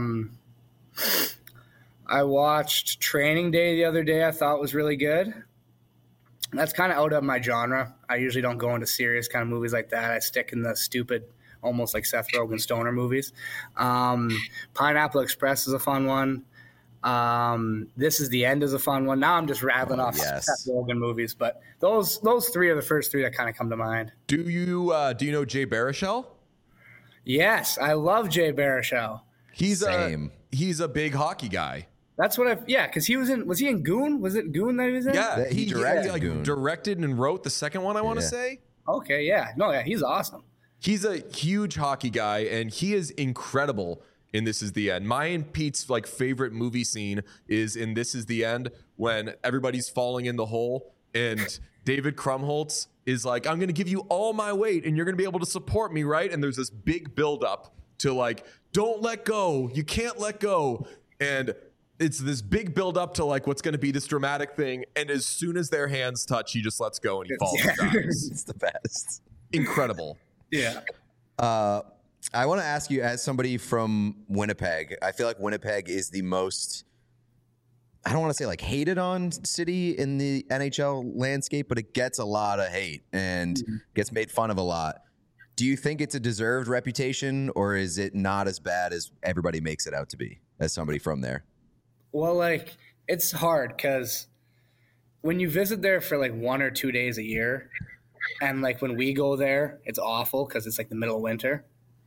watched Training Day the other day. I thought was really good. That's kind of out of my genre. I usually don't go into serious kind of movies like that. I stick in the stupid, almost like Seth Rogen stoner movies. Pineapple Express is a fun one. This Is the End is a fun one. Now I'm just rattling off Seth Rogen movies, but those 3 are the first 3 that kind of come to mind. Do you know Jay Baruchel? Yes, I love Jay Baruchel. He's a big hockey guy. That's what because he was he in Goon? Was it Goon that he was in? Yeah, he directed and wrote the second one, I want to say. Okay, yeah. No, yeah, he's awesome. He's a huge hockey guy, and he is incredible in This Is the End. My and Pete's like favorite movie scene is in This Is the End when everybody's falling in the hole and David Krumholtz is like, I'm going to give you all my weight and you're going to be able to support me, right? And there's this big buildup to like, don't let go. You can't let go. And it's this big buildup to like what's going to be this dramatic thing. And as soon as their hands touch, he just lets go and he falls and dies. It's the best. Incredible. Yeah. I want to ask you, as somebody from Winnipeg, I feel like Winnipeg is the most, I don't want to say like hated on city in the NHL landscape, but it gets a lot of hate and gets made fun of a lot. Do you think it's a deserved reputation, or is it not as bad as everybody makes it out to be as somebody from there? Well, like, it's hard because when you visit there for like 1 or 2 days a year, and like when we go there, it's awful because it's like the middle of winter.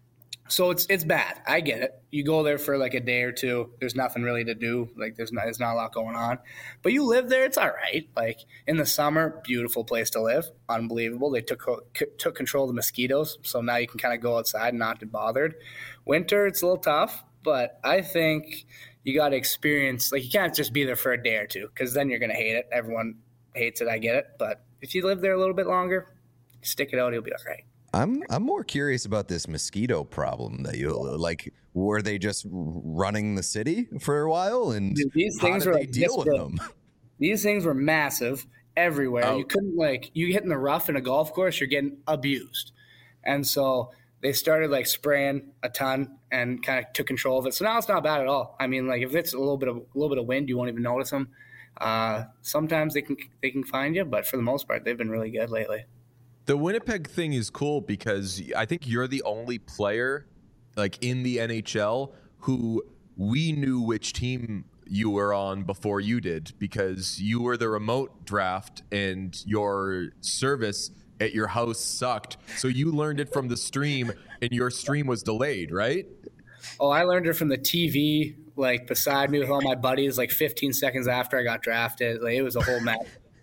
So it's bad. I get it. You go there for like a day or two. There's nothing really to do. Like there's not a lot going on. But you live there, it's all right. Like in the summer, beautiful place to live. Unbelievable. They took control of the mosquitoes, so now you can kind of go outside and not get bothered. Winter, it's a little tough, but I think you got to experience. Like you can't just be there for a day or two because then you're gonna hate it. Everyone hates it. I get it. But if you live there a little bit longer, stick it out. You'll be all right. I'm more curious about this mosquito problem that you like. Were they just running the city for a while, and dude, these things how were did they like deal with them? These things were massive everywhere. Oh. You couldn't you hit in the rough in a golf course, you're getting abused, and so they started like spraying a ton and kind of took control of it. So now it's not bad at all. I mean, like if it's a little bit of wind, you won't even notice them. Sometimes they can find you, but for the most part, they've been really good lately. The Winnipeg thing is cool because I think you're the only player like in the NHL who we knew which team you were on before you did because you were the remote draft and your service at your house sucked. So you learned it from the stream and your stream was delayed, right? Oh, I learned it from the TV, like beside me with all my buddies, like 15 seconds after I got drafted. Like it was a whole mess.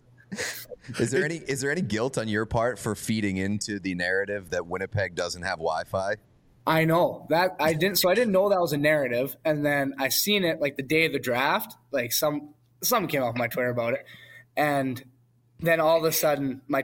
Is there any guilt on your part for feeding into the narrative that Winnipeg doesn't have Wi-Fi? I know that I didn't know that was a narrative, and then I seen it like the day of the draft. Like something came off my Twitter about it, and then all of a sudden my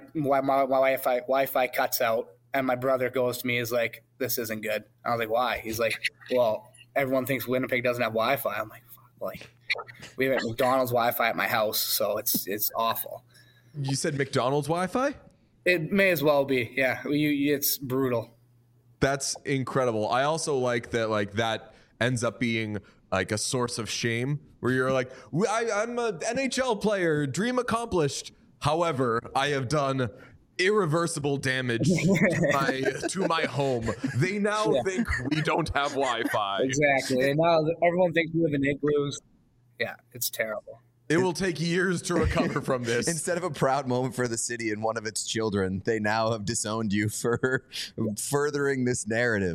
Wi-Fi cuts out, and my brother goes to me, is like, "This isn't good." I was like, "Why?" He's like, "Well, everyone thinks Winnipeg doesn't have Wi-Fi." I'm like, "Fuck!" Like we have McDonald's Wi-Fi at my house, so it's awful. You said McDonald's Wi-Fi? It may as well be. Yeah, it's brutal. That's incredible. I also like that ends up being like a source of shame where you're like, I'm an NHL player, dream accomplished. However, I have done irreversible damage to my home. They now think we don't have Wi-Fi. Exactly. And now everyone thinks we live in igloos. Yeah, it's terrible. It will take years to recover from this. Instead of a proud moment for the city and one of its children, they now have disowned you for furthering this narrative.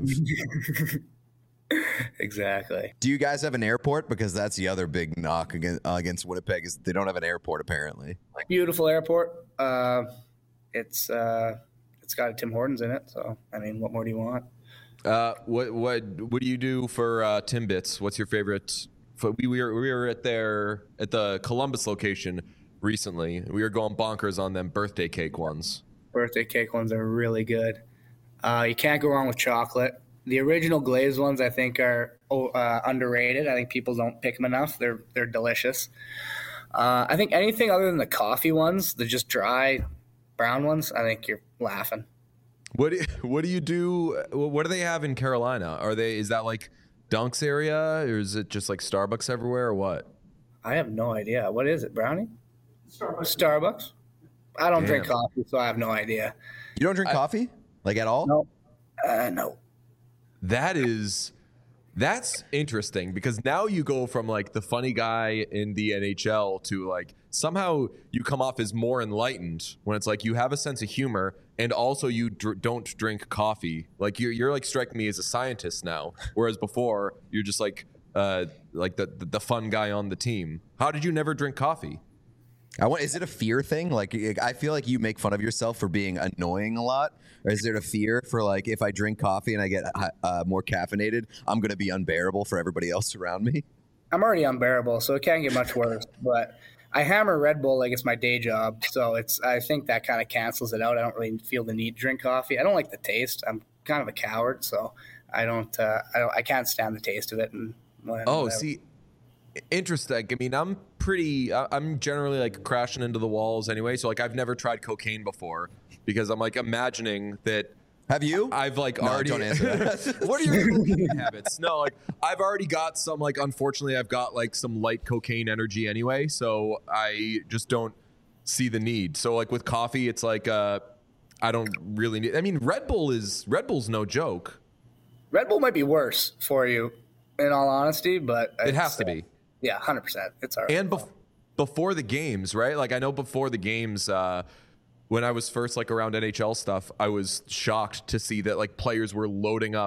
Exactly. Do you guys have an airport? Because that's the other big knock against Winnipeg is they don't have an airport apparently. Beautiful airport. It's got a Tim Hortons in it. So I mean, what more do you want? What do you do for Timbits? What's your favorite? We were at the Columbus location recently. We were going bonkers on them birthday cake ones. Birthday cake ones are really good. You can't go wrong with chocolate. The original glazed ones, I think, are underrated. I think people don't pick them enough. They're delicious. I think anything other than the coffee ones, the just dry brown ones, I think you're laughing. What do you do? What do they have in Carolina? Is that like Dunks area, or is it just like Starbucks everywhere, or what? I have no idea. What is it, Brownie? Starbucks? I don't drink coffee, so I have no idea. You don't drink coffee? Like at all? No. No. That's interesting because now you go from like the funny guy in the NHL to like somehow you come off as more enlightened when it's like you have a sense of humor and also you don't drink coffee. Like you're like striking me as a scientist now, whereas before you're just like the fun guy on the team. How did you never drink coffee? Is it a fear thing? Like, I feel like you make fun of yourself for being annoying a lot. Or is there a fear for like, if I drink coffee and I get more caffeinated, I'm going to be unbearable for everybody else around me? I'm already unbearable, so it can't get much worse. But I hammer Red Bull like it's my day job, so I think that kind of cancels it out. I don't really feel the need to drink coffee. I don't like the taste. I'm kind of a coward, so I can't stand the taste of it. And whatever. See. Interesting. I mean, I'm generally like crashing into the walls anyway. So like, I've never tried cocaine before because I'm like imagining that. Have you? I've like no, already. Don't answer that. What are your cocaine habits? No, like I've already got some. Like, unfortunately, I've got like some light cocaine energy anyway. So I just don't see the need. So like with coffee, it's like I don't really need. I mean, Red Bull's no joke. Red Bull might be worse for you, in all honesty, but it has to be. Yeah, 100%. It's all right. And before the games, right? Like I know before the games, when I was first like around NHL stuff, I was shocked to see that like players were loading up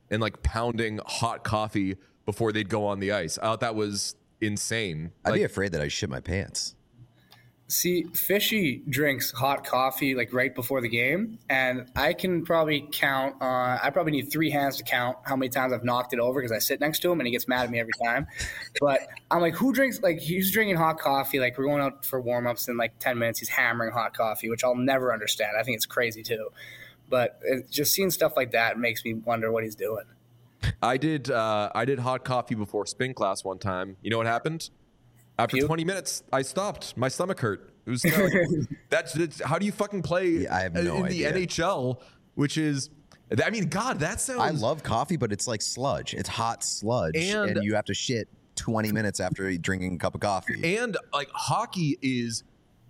and like pounding hot coffee before they'd go on the ice. I thought that was insane. I'd be afraid that I shit my pants. See, Fishy drinks hot coffee like right before the game, and I can probably count. I probably need 3 hands to count how many times I've knocked it over because I sit next to him and he gets mad at me every time. But I'm like, who drinks? Like, he's drinking hot coffee. Like, we're going out for warm ups in like 10 minutes. He's hammering hot coffee, which I'll never understand. I think it's crazy too. But just seeing stuff like that makes me wonder what he's doing. I did hot coffee before spin class one time. You know what happened? After 20 minutes, I stopped. My stomach hurt. It was kind of like, that's how do you fucking play I have no idea. The NHL, which is, I mean, God, that sounds. I love coffee, but it's like sludge. It's hot sludge, and you have to shit 20 minutes after drinking a cup of coffee. And like hockey is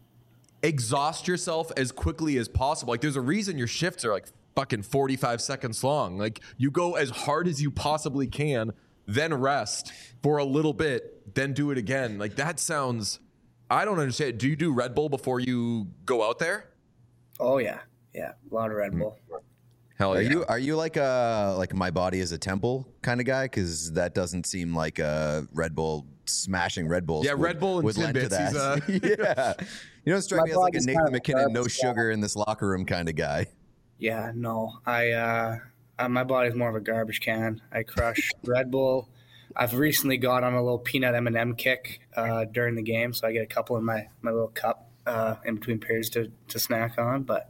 exhaust yourself as quickly as possible. Like there's a reason your shifts are like fucking 45 seconds long. Like you go as hard as you possibly can, then rest for a little bit, then do it again. Like that sounds, I don't understand. Do you do Red Bull before you go out there? Oh yeah. Yeah. A lot of Red Bull. Hell yeah. Are you like my body is a temple kind of guy? Cause that doesn't seem like a Red Bull smashing Red Bulls. Yeah. Red Bull and would lend to Timbits. that. Yeah. You don't strike me as like a Nathan McKinnon, no sugar in this locker room kind of guy. Yeah, no. My body's more of a garbage can. I crush Red Bull. I've recently got on a little peanut M&M kick during the game, so I get a couple in my little cup in between periods to snack on. But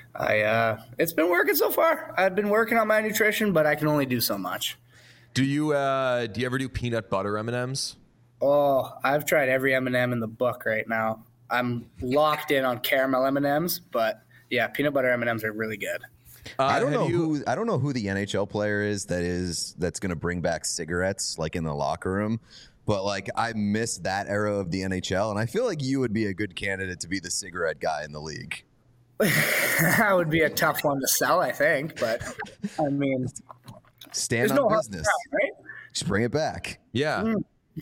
it's been working so far. I've been working on my nutrition, but I can only do so much. Do you ever do peanut butter M&Ms? Oh, I've tried every M&M in the book right now. I'm locked in on caramel M&Ms, but yeah, peanut butter M&Ms are really good. I don't know who the NHL player is that's going to bring back cigarettes like in the locker room, but like I miss that era of the NHL, and I feel like you would be a good candidate to be the cigarette guy in the league. That would be a tough one to sell, I think, but I mean, stand on business, right? Just bring it back. Yeah.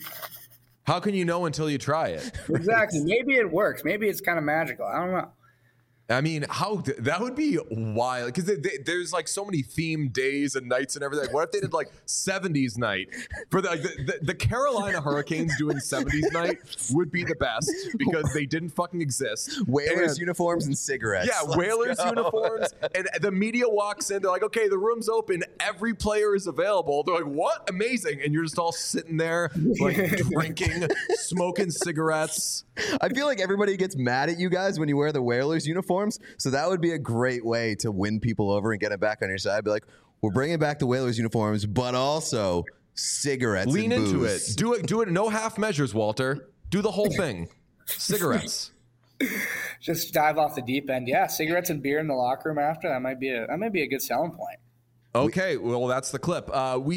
How can you know until you try it? Exactly. Maybe it works. Maybe it's kind of magical. I don't know. I mean, that would be wild because there's like so many themed days and nights and everything. Like, what if they did like 70s night for the Carolina Hurricanes doing 70s night would be the best because they didn't fucking exist. Whalers uniforms and cigarettes. Yeah, Whalers uniforms, and the media walks in. They're like, "Okay, the room's open. Every player is available." They're like, "What? Amazing!" And you're just all sitting there, like drinking, smoking cigarettes. I feel like everybody gets mad at you guys when you wear the Whalers uniforms. So that would be a great way to win people over and get it back on your side. Be like, we're bringing back the Whalers uniforms, but also cigarettes. Lean and into booze. it. Do it. No half measures, Walter. Do the whole thing. Cigarettes. Just dive off the deep end. Yeah, cigarettes and beer in the locker room after that might be a good selling point. Okay, well that's the clip.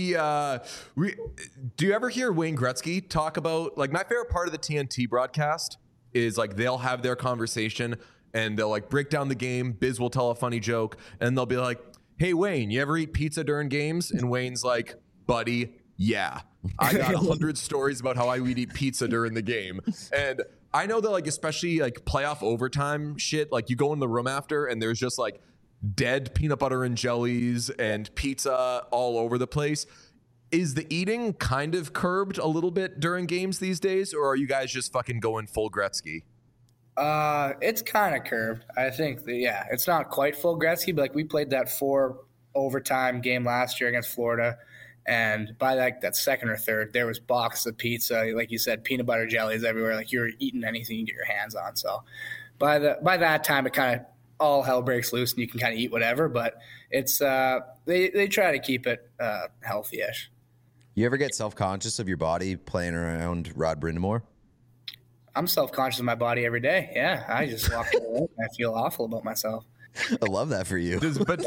Do you ever hear Wayne Gretzky talk about like my favorite part of the TNT broadcast is like they'll have their conversation and they'll like break down the game. Biz will tell a funny joke and they'll be like, "Hey Wayne, you ever eat pizza during games?" And Wayne's like, "Buddy, yeah, I got 100 stories about how I would eat pizza during the game." And I know that like especially like playoff overtime shit, like you go in the room after and there's just like dead peanut butter and jellies and pizza all over the place. Is the eating kind of curbed a little bit during games these days, or are you guys just fucking going full Gretzky? It's kind of curved. I think it's not quite full Gretzky, but like we played that 4 overtime game last year against Florida, and by like that second or third, there was boxes of pizza, like you said, peanut butter jellies everywhere. Like you're eating anything you can get your hands on. So by that time, it kind of all hell breaks loose, and you can kind of eat whatever. But it's they try to keep it healthy-ish. You ever get self-conscious of your body playing around Rod Brind'Amour? I'm self-conscious of my body every day. Yeah, I just walk away and I feel awful about myself. I love that for you. But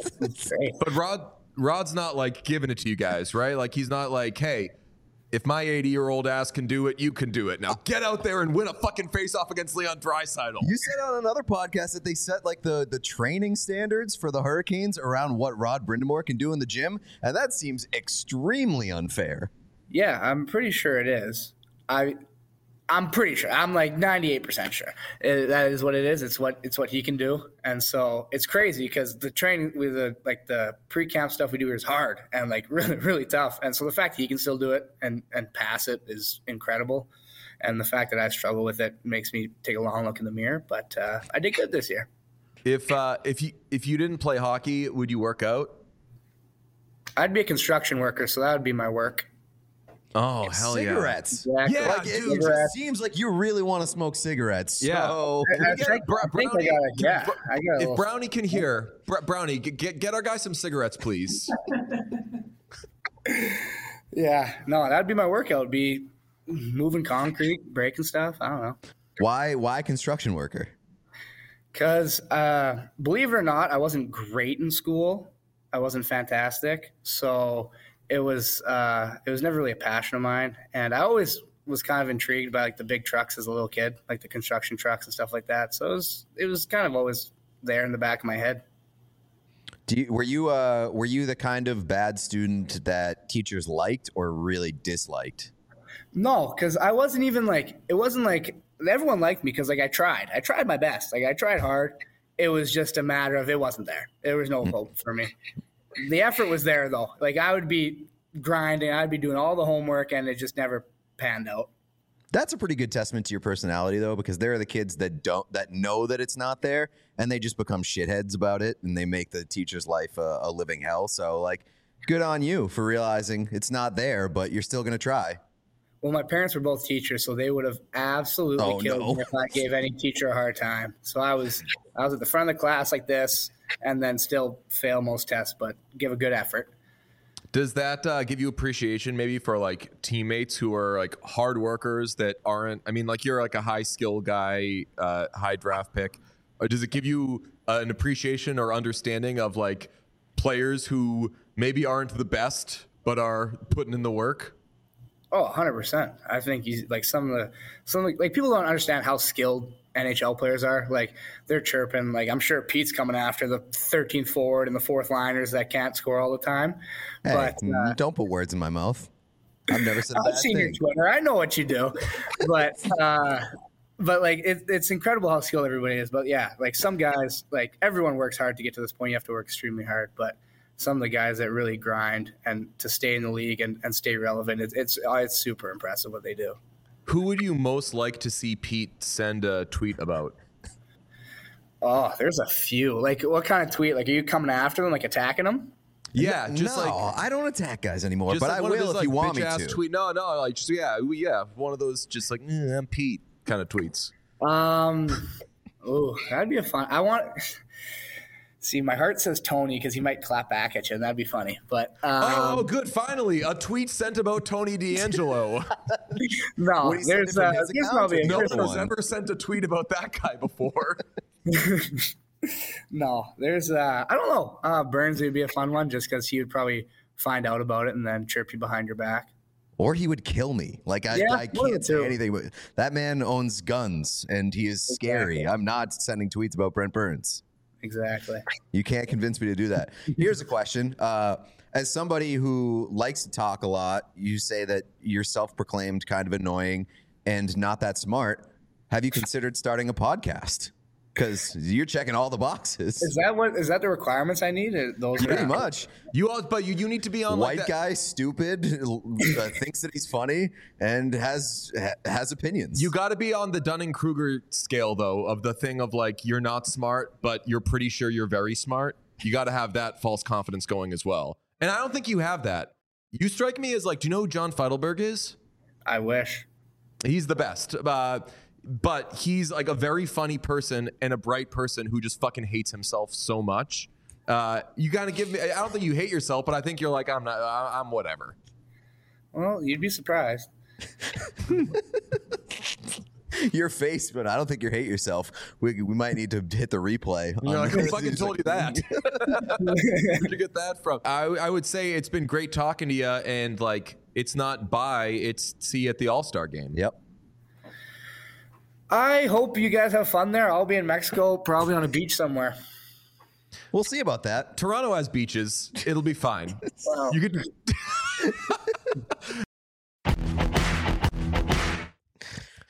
Rod's not like giving it to you guys, right? Like he's not like, "Hey, if my 80-year-old ass can do it, you can do it. Now get out there and win a fucking face-off against Leon Draisaitl." You said on another podcast that they set like the training standards for the Hurricanes around what Rod Brind'Amour can do in the gym, and that seems extremely unfair. Yeah, I'm pretty sure it is. I'm pretty sure. I'm like 98% sure that is what it is. It's what he can do, and so it's crazy because the training with the pre-camp stuff we do is hard and like really really tough, and so the fact that he can still do it and pass it is incredible, and the fact that I struggle with it makes me take a long look in the mirror. But I did good this year. If you didn't play hockey, would you work out? I'd be a construction worker, so that would be my work. Oh, hell cigarettes. yeah. Exactly. Yeah, Like, it just seems like you really want to smoke cigarettes. Yeah. So. If Brownie can hear, Brownie, get our guy some cigarettes, please. Yeah, no, that'd be my workout. It'd be moving concrete, breaking stuff. I don't know. Why construction worker? Because believe it or not, I wasn't great in school. I wasn't fantastic. So it was never really a passion of mine. And I always was kind of intrigued by like the big trucks as a little kid, like the construction trucks and stuff like that. So it was kind of always there in the back of my head. Were you the kind of bad student that teachers liked or really disliked? No, because I wasn't even like, it wasn't like everyone liked me because like I tried my best. Like I tried hard. It was just a matter of it wasn't there. There was no hope for me. The effort was there though. Like I would be grinding, I'd be doing all the homework, and it just never panned out. That's a pretty good testament to your personality, though, because there are the kids that know that it's not there, and they just become shitheads about it, and they make the teacher's life a living hell. So, like, good on you for realizing it's not there, but you're still going to try. Well, my parents were both teachers, so they would have absolutely killed me if I gave any teacher a hard time. So I was at the front of the class like this, and then still fail most tests, but give a good effort. Does that give you appreciation maybe for like teammates who are like hard workers that aren't, I mean, like you're like a high skill guy, high draft pick, or does it give you an appreciation or understanding of like players who maybe aren't the best, but are putting in the work? Oh, 100%. I think he's like some of the people don't understand how skilled NHL players are. Like they're chirping. Like I'm sure Pete's coming after the 13th forward and the fourth liners that can't score all the time. Hey, but don't put words in my mouth. I've never said a bad I've seen thing. your Twitter. I know what you do, but like it's incredible how skilled everybody is. But yeah, like some guys, like everyone works hard to get to this point. You have to work extremely hard, but some of the guys that really grind and to stay in the league and stay relevant, it's super impressive what they do. Who would you most like to see Pete send a tweet about? Oh, there's a few. Like what kind of tweet? Like are you coming after them, like attacking them? Yeah, just no, like I don't attack guys anymore, but like I will if you want me to. Tweet. No, like just yeah, one of those just like I'm Pete kind of tweets. Oh, that'd be a fun. I want. See, my heart says Tony because he might clap back at you, and that'd be funny. But oh, good! Finally, a tweet sent about Tony DeAngelo. No, there's probably no one's ever sent a tweet about that guy before. No, there's I don't know. Burns would be a fun one just because he would probably find out about it and then chirp you behind your back. Or he would kill me. Like I can't say anything. But that man owns guns, and he is scary. Exactly. I'm not sending tweets about Brent Burns. Exactly. You can't convince me to do that. Here's a question. As somebody who likes to talk a lot, you say that you're self-proclaimed kind of annoying and not that smart. Have you considered starting a podcast? Because you're checking all the boxes. Is that the requirements I need? Those Pretty much. You need to be on White like guy, stupid, thinks that he's funny and has opinions. You got to be on the Dunning-Kruger scale though, of the thing of like you're not smart, but you're pretty sure you're very smart. You got to have that false confidence going as well. And I don't think you have that. You strike me as like, do you know who John Feidelberg is? I wish. He's the best. But he's like a very funny person and a bright person who just fucking hates himself so much. You gotta give me. I don't think you hate yourself, but I think you're like I'm whatever. Well, you'd be surprised. Your face, but I don't think you hate yourself. We might need to hit the replay. You're like, who fucking told you that? Where'd you get that from? I would say it's been great talking to you, and like it's not bye, it's see you at the All-Star game. Yep. I hope you guys have fun there. I'll be in Mexico, probably on a beach somewhere. We'll see about that. Toronto has beaches. It'll be fine. Wow. You could.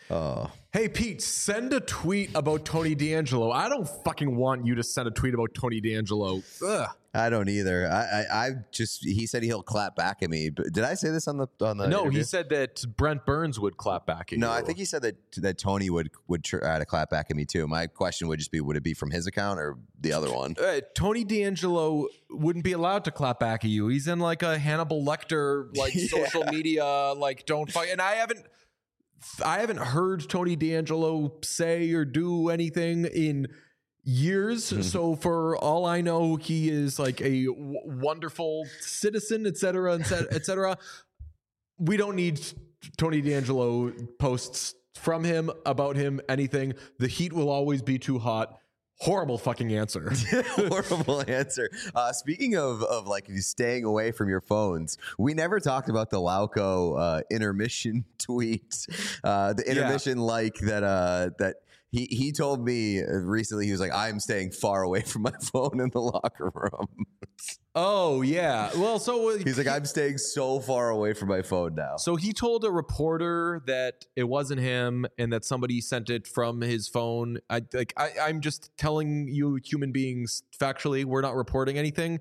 Oh. Hey, Pete, send a tweet about Tony D'Angelo. I don't fucking want you to send a tweet about Tony D'Angelo. Ugh. I don't either. He said he'll clap back at me. But did I say this on the No, interview? he said that Brent Burns would clap back at you. No, I think he said that Tony would try to clap back at me too. My question would just be, would it be from his account or the other one? Tony D'Angelo wouldn't be allowed to clap back at you. He's in like a Hannibal Lecter social media don't fight. And I haven't heard Tony D'Angelo say or do anything in years. Mm-hmm. So for all I know, he is like a wonderful citizen, et cetera, et cetera. We don't need Tony D'Angelo posts from him, about him, anything. The heat will always be too hot. Horrible fucking answer. Horrible answer. Speaking of like staying away from your phones, we never talked about the Lauco intermission tweet. The intermission that he told me recently. He was like, "I'm staying far away from my phone in the locker room." Oh yeah. Well, so he's like, "I'm staying so far away from my phone now." So he told a reporter that it wasn't him and that somebody sent it from his phone. I'm just telling you, human beings, factually, we're not reporting anything.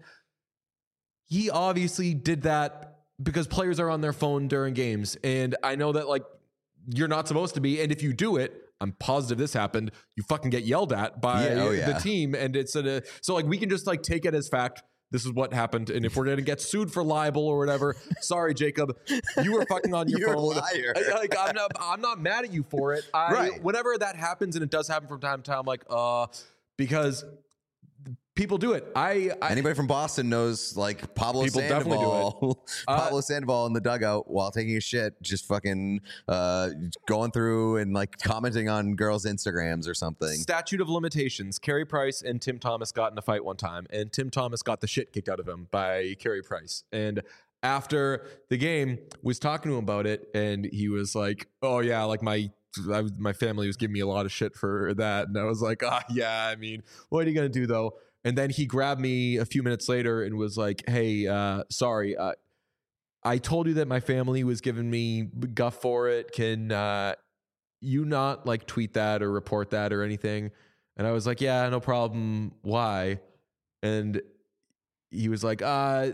He obviously did that because players are on their phone during games, and I know that you're not supposed to be. And if you do it, I'm positive this happened, you fucking get yelled at by the team, and it's so we can just take it as fact. This is what happened, and if we're gonna get sued for libel or whatever, sorry, Jacob, you were fucking on your phone. Liar. I'm not mad at you for it. Right. Whenever that happens, and it does happen from time to time, I'm like, because people do it. Anybody from Boston knows Pablo people definitely do it. Pablo Sandoval in the dugout while taking a shit, just fucking going through and commenting on girls' Instagrams or something. Statute of limitations. Carey Price and Tim Thomas got in a fight one time, and Tim Thomas got the shit kicked out of him by Carey Price. And after the game, was talking to him about it, and he was like, "Oh yeah, my family was giving me a lot of shit for that," and I was like, yeah. I mean, what are you gonna do though? And then he grabbed me a few minutes later and was like, "Hey, sorry, I told you that my family was giving me guff for it. Can you not tweet that or report that or anything?" And I was like, "Yeah, no problem. Why?" And he was like, "I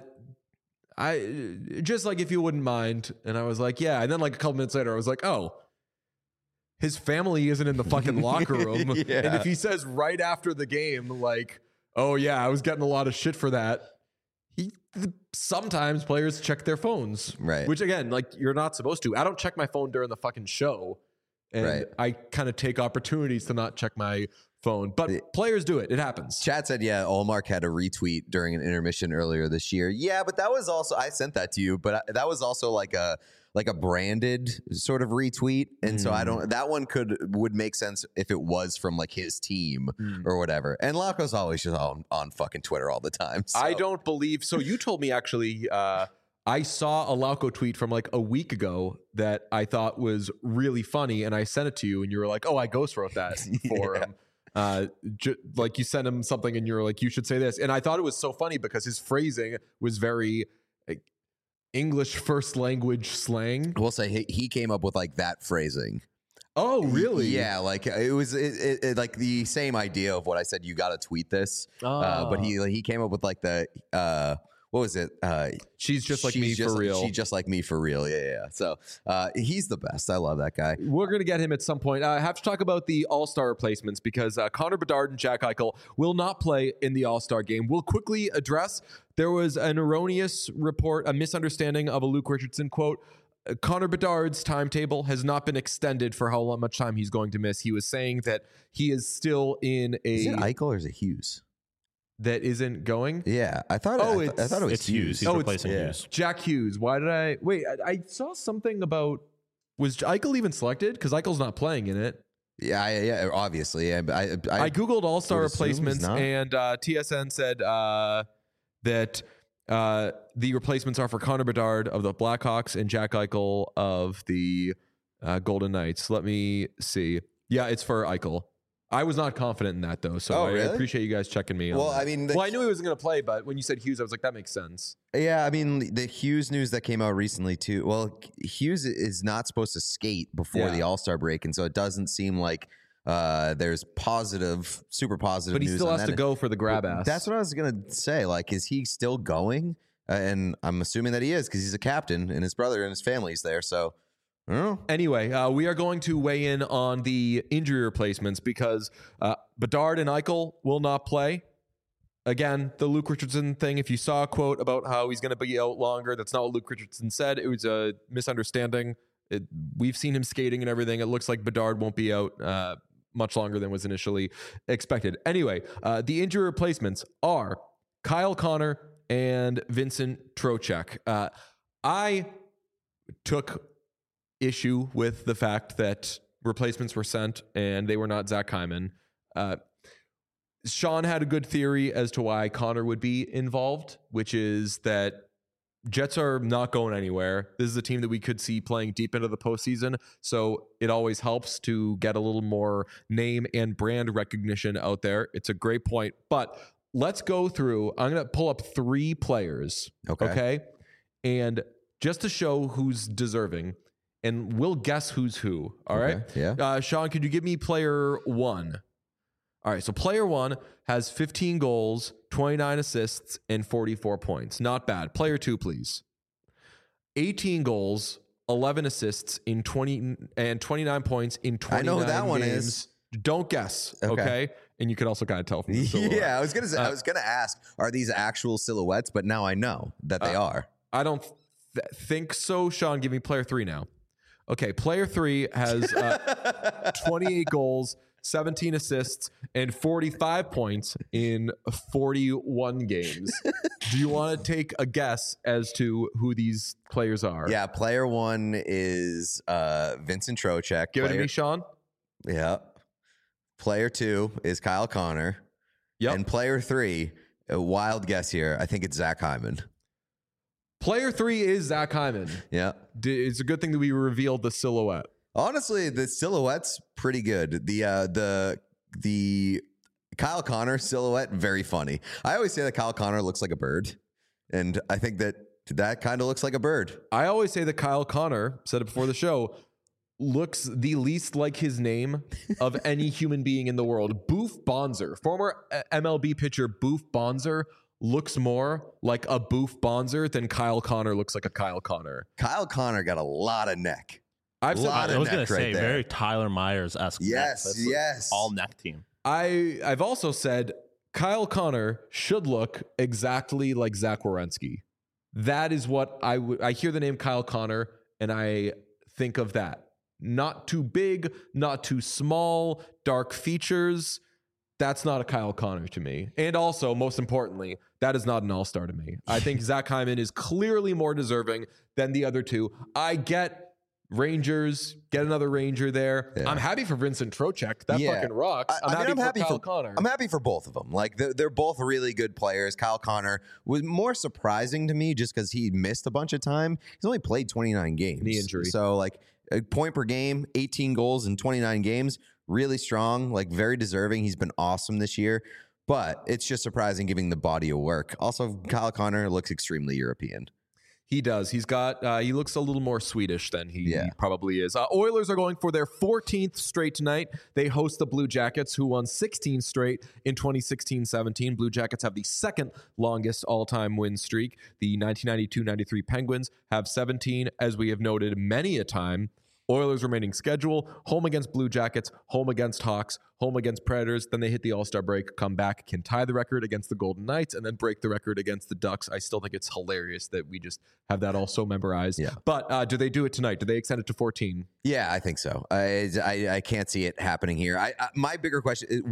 just if you wouldn't mind." And I was like, "Yeah." And then a couple minutes later, I was like, "Oh, his family isn't in the fucking locker room." Yeah. And if he says right after the game, "Oh yeah, I was getting a lot of shit for that," sometimes players check their phones, right? Which again, you're not supposed to. I don't check my phone during the fucking show, and right. I kind of take opportunities to not check my phone. But players do it. It happens. Chat said, yeah, Olmark had a retweet during an intermission earlier this year. Yeah, but that was also, I sent that to you, but that was also like a branded sort of retweet. And so that one would make sense if it was from his team or whatever. And Lauco's always just on fucking Twitter all the time. So. I don't believe, so you told me actually, I saw a Lauco tweet from a week ago that I thought was really funny, and I sent it to you, and you were like, "Oh, I ghost wrote that for him." You sent him something, and you were like, "You should say this," and I thought it was so funny because his phrasing was very English first language slang. We'll say he came up with that phrasing. Oh, really? Yeah, it was the same idea of what I said. You got to tweet this, but he came up with the. What was it? She's just like me for real. She's just like me for real. Yeah. So he's the best. I love that guy. We're going to get him at some point. I have to talk about the All-Star replacements because Connor Bedard and Jack Eichel will not play in the All-Star game. We'll quickly address, there was an erroneous report, a misunderstanding of a Luke Richardson quote. Connor Bedard's timetable has not been extended for how much time he's going to miss. He was saying that he is still in a... Is it Eichel or is it Hughes? That isn't going? Yeah, I thought it was Hughes. He's replacing Hughes. Jack Hughes. Why did I wait? I saw something about, was Eichel even selected? Because Eichel's not playing in it. Yeah, obviously. I Googled All-Star replacements, and TSN said that the replacements are for Connor Bedard of the Blackhawks and Jack Eichel of the Golden Knights. Let me see. Yeah, it's for Eichel. I was not confident in that though, so I appreciate you guys checking me. Well, on that. I mean, I knew he wasn't going to play, but when you said Hughes, I was like, that makes sense. Yeah, I mean, the Hughes news that came out recently too. Well, Hughes is not supposed to skate before the All-Star break, and so it doesn't seem like there's super positive news. But he still has to go for the grab ass. That's what I was gonna say. Like, is he still going? And I'm assuming that he is because he's a captain, and his brother and his family's there. So I don't know. Anyway, we are going to weigh in on the injury replacements because Bedard and Eichel will not play. Again, the Luke Richardson thing, if you saw a quote about how he's going to be out longer, that's not what Luke Richardson said. It was a misunderstanding. We've seen him skating and everything. It looks like Bedard won't be out much longer than was initially expected. Anyway, the injury replacements are Kyle Connor and Vincent Trocheck. I took issue with the fact that replacements were sent and they were not Zach Hyman. Sean had a good theory as to why Connor would be involved, which is that Jets are not going anywhere. This is a team that we could see playing deep into the postseason, so it always helps to get a little more name and brand recognition out there. It's a great point, but let's go through. I'm going to pull up 3 players, okay? And just to show who's deserving, and we'll guess who's who, all right? Yeah. Sean, could you give me player 1? All right, so player 1 has 15 goals, 29 assists, and 44 points. Not bad. Player 2, please. 18 goals, 11 assists in 29 points in 29 I know who that games. one is. Don't guess, okay? And you can also kind of tell from the silhouette. Yeah, I was gonna say. I was gonna ask, are these actual silhouettes? But now I know that they are. I don't think so. Sean, give me player 3 now. Okay, player 3 has 28 goals, 17 assists, and 45 points in 41 games. Do you want to take a guess as to who these players are? Yeah, player 1 is Vincent Trocheck. Give it to me, Sean. Yeah. Player 2 is Kyle Connor. Yep. And player 3, a wild guess here, I think it's Zach Hyman. Player 3 is Zach Hyman. Yeah. It's a good thing that we revealed the silhouette. Honestly, the silhouette's pretty good. The Kyle Connor silhouette, very funny. I always say that Kyle Connor looks like a bird, and I think that kind of looks like a bird. I always say that Kyle Connor, said it before the show, looks the least like his name of any human being in the world. Boof Bonser, former MLB pitcher Boof Bonser, looks more like a Boof Bonser than Kyle Connor looks like a Kyle Connor. Kyle Connor got a lot of neck. I was going to say, very Tyler Myers-esque. Yes. All neck team. I've also said Kyle Connor should look exactly like Zach Werenski. That is what I hear the name Kyle Connor and I think of that. Not too big, not too small, dark features. That's not a Kyle Connor to me. And also, most importantly, that is not an all-star to me. I think Zach Hyman is clearly more deserving than the other two. I get Rangers, get another Ranger there. Yeah. I'm happy for Vincent Trocheck. That fucking rocks. I'm happy for Kyle Connor. I'm happy for both of them. Like, they're both really good players. Kyle Connor was more surprising to me just because he missed a bunch of time. He's only played 29 games. Knee injury. So, like, a point per game, 18 goals in 29 games. Really strong, like, very deserving. He's been awesome this year. But it's just surprising giving the body of work. Also, Kyle Connor looks extremely European. He does. He's got, he looks a little more Swedish than he probably is. Oilers are going for their 14th straight tonight. They host the Blue Jackets, who won 16 straight in 2016-17. Blue Jackets have the second longest all-time win streak. The 1992-93 Penguins have 17, as we have noted many a time. Oilers remaining schedule, home against Blue Jackets, home against Hawks, home against Predators. Then they hit the All-Star break, come back, can tie the record against the Golden Knights, and then break the record against the Ducks. I still think it's hilarious that we just have that all so memorized. Yeah. But do they do it tonight? Do they extend it to 14? Yeah, I think so. I can't see it happening here. My bigger question is,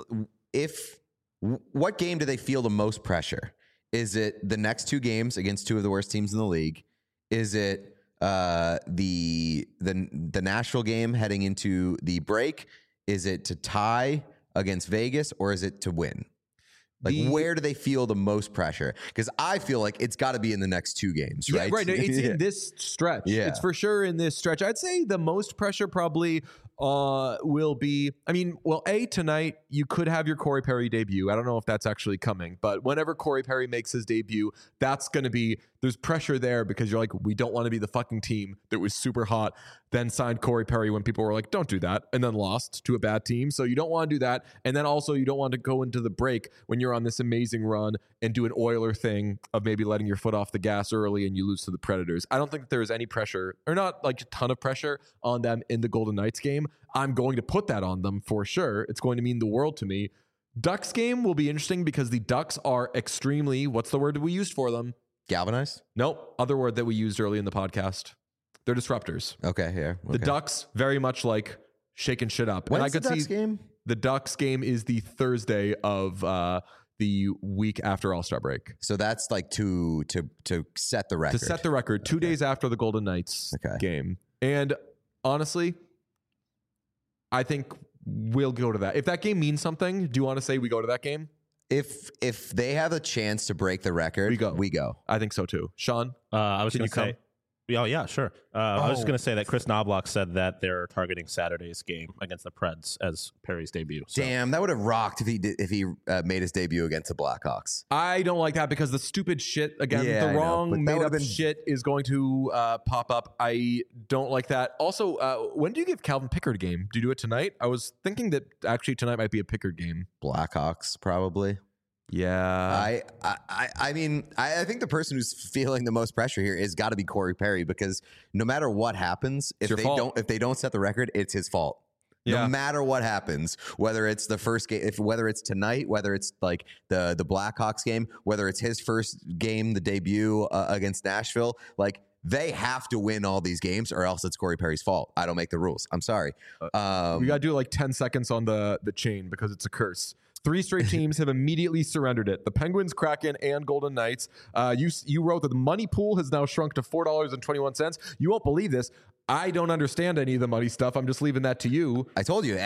what game do they feel the most pressure? Is it the next 2 games against 2 of the worst teams in the league? Is it the Nashville game heading into the break? Is it to tie against Vegas, or is it to win? Like, where do they feel the most pressure? Because I feel like it's got to be in the next 2 games, right? Yeah, right. It's in this stretch. Yeah. It's for sure in this stretch. I'd say the most pressure probably will be, tonight you could have your Corey Perry debut. I don't know if that's actually coming, but whenever Corey Perry makes his debut, that's going to be, there's pressure there because you're like, we don't want to be the fucking team that was super hot, then signed Corey Perry when people were like, don't do that, and then lost to a bad team. So you don't want to do that. And then also you don't want to go into the break when you're on this amazing run and do an Oiler thing of maybe letting your foot off the gas early and you lose to the Predators. I don't think that there is any pressure, or not like a ton of pressure on them in the Golden Knights game. I'm going to put that on them for sure. It's going to mean the world to me. Ducks game will be interesting because the Ducks are extremely, what's the word we used for them? Galvanized? Nope. Other word that we used early in the podcast. They're disruptors. Okay, here. Okay. The Ducks very much like shaking shit up. When's and I could the Ducks see game? The Ducks game is the Thursday of the week after All-Star break. So that's like to set the record. To set the record, 2 days after the Golden Knights game. And honestly, I think we'll go to that. If that game means something, do you want to say we go to that game? If they have a chance to break the record, we go. I think so too. Sean, I was can going you to say, oh yeah, sure. I was just going to say that Chris Knobloch said that they're targeting Saturday's game against the Preds as Perry's debut. So. Damn, that would have rocked if he made his debut against the Blackhawks. I don't like that because the stupid shit again, the wrong made up shit is going to pop up. I don't like that. Also, when do you give Calvin Pickard a game? Do you do it tonight? I was thinking that actually tonight might be a Pickard game. Blackhawks probably. Yeah. I mean, I think the person who's feeling the most pressure here is got to be Corey Perry, because no matter what happens, if they don't set the record, it's his fault. Yeah. No matter what happens, whether it's the first game, whether it's tonight, whether it's like the Blackhawks game, whether it's his first game, the debut against Nashville, like they have to win all these games or else it's Corey Perry's fault. I don't make the rules. I'm sorry. We got to do like 10 seconds on the chain because it's a curse. 3 straight teams have immediately surrendered it. The Penguins, Kraken, and Golden Knights. You wrote that the money pool has now shrunk to $4.21. You won't believe this. I don't understand any of the money stuff. I'm just leaving that to you. I told you,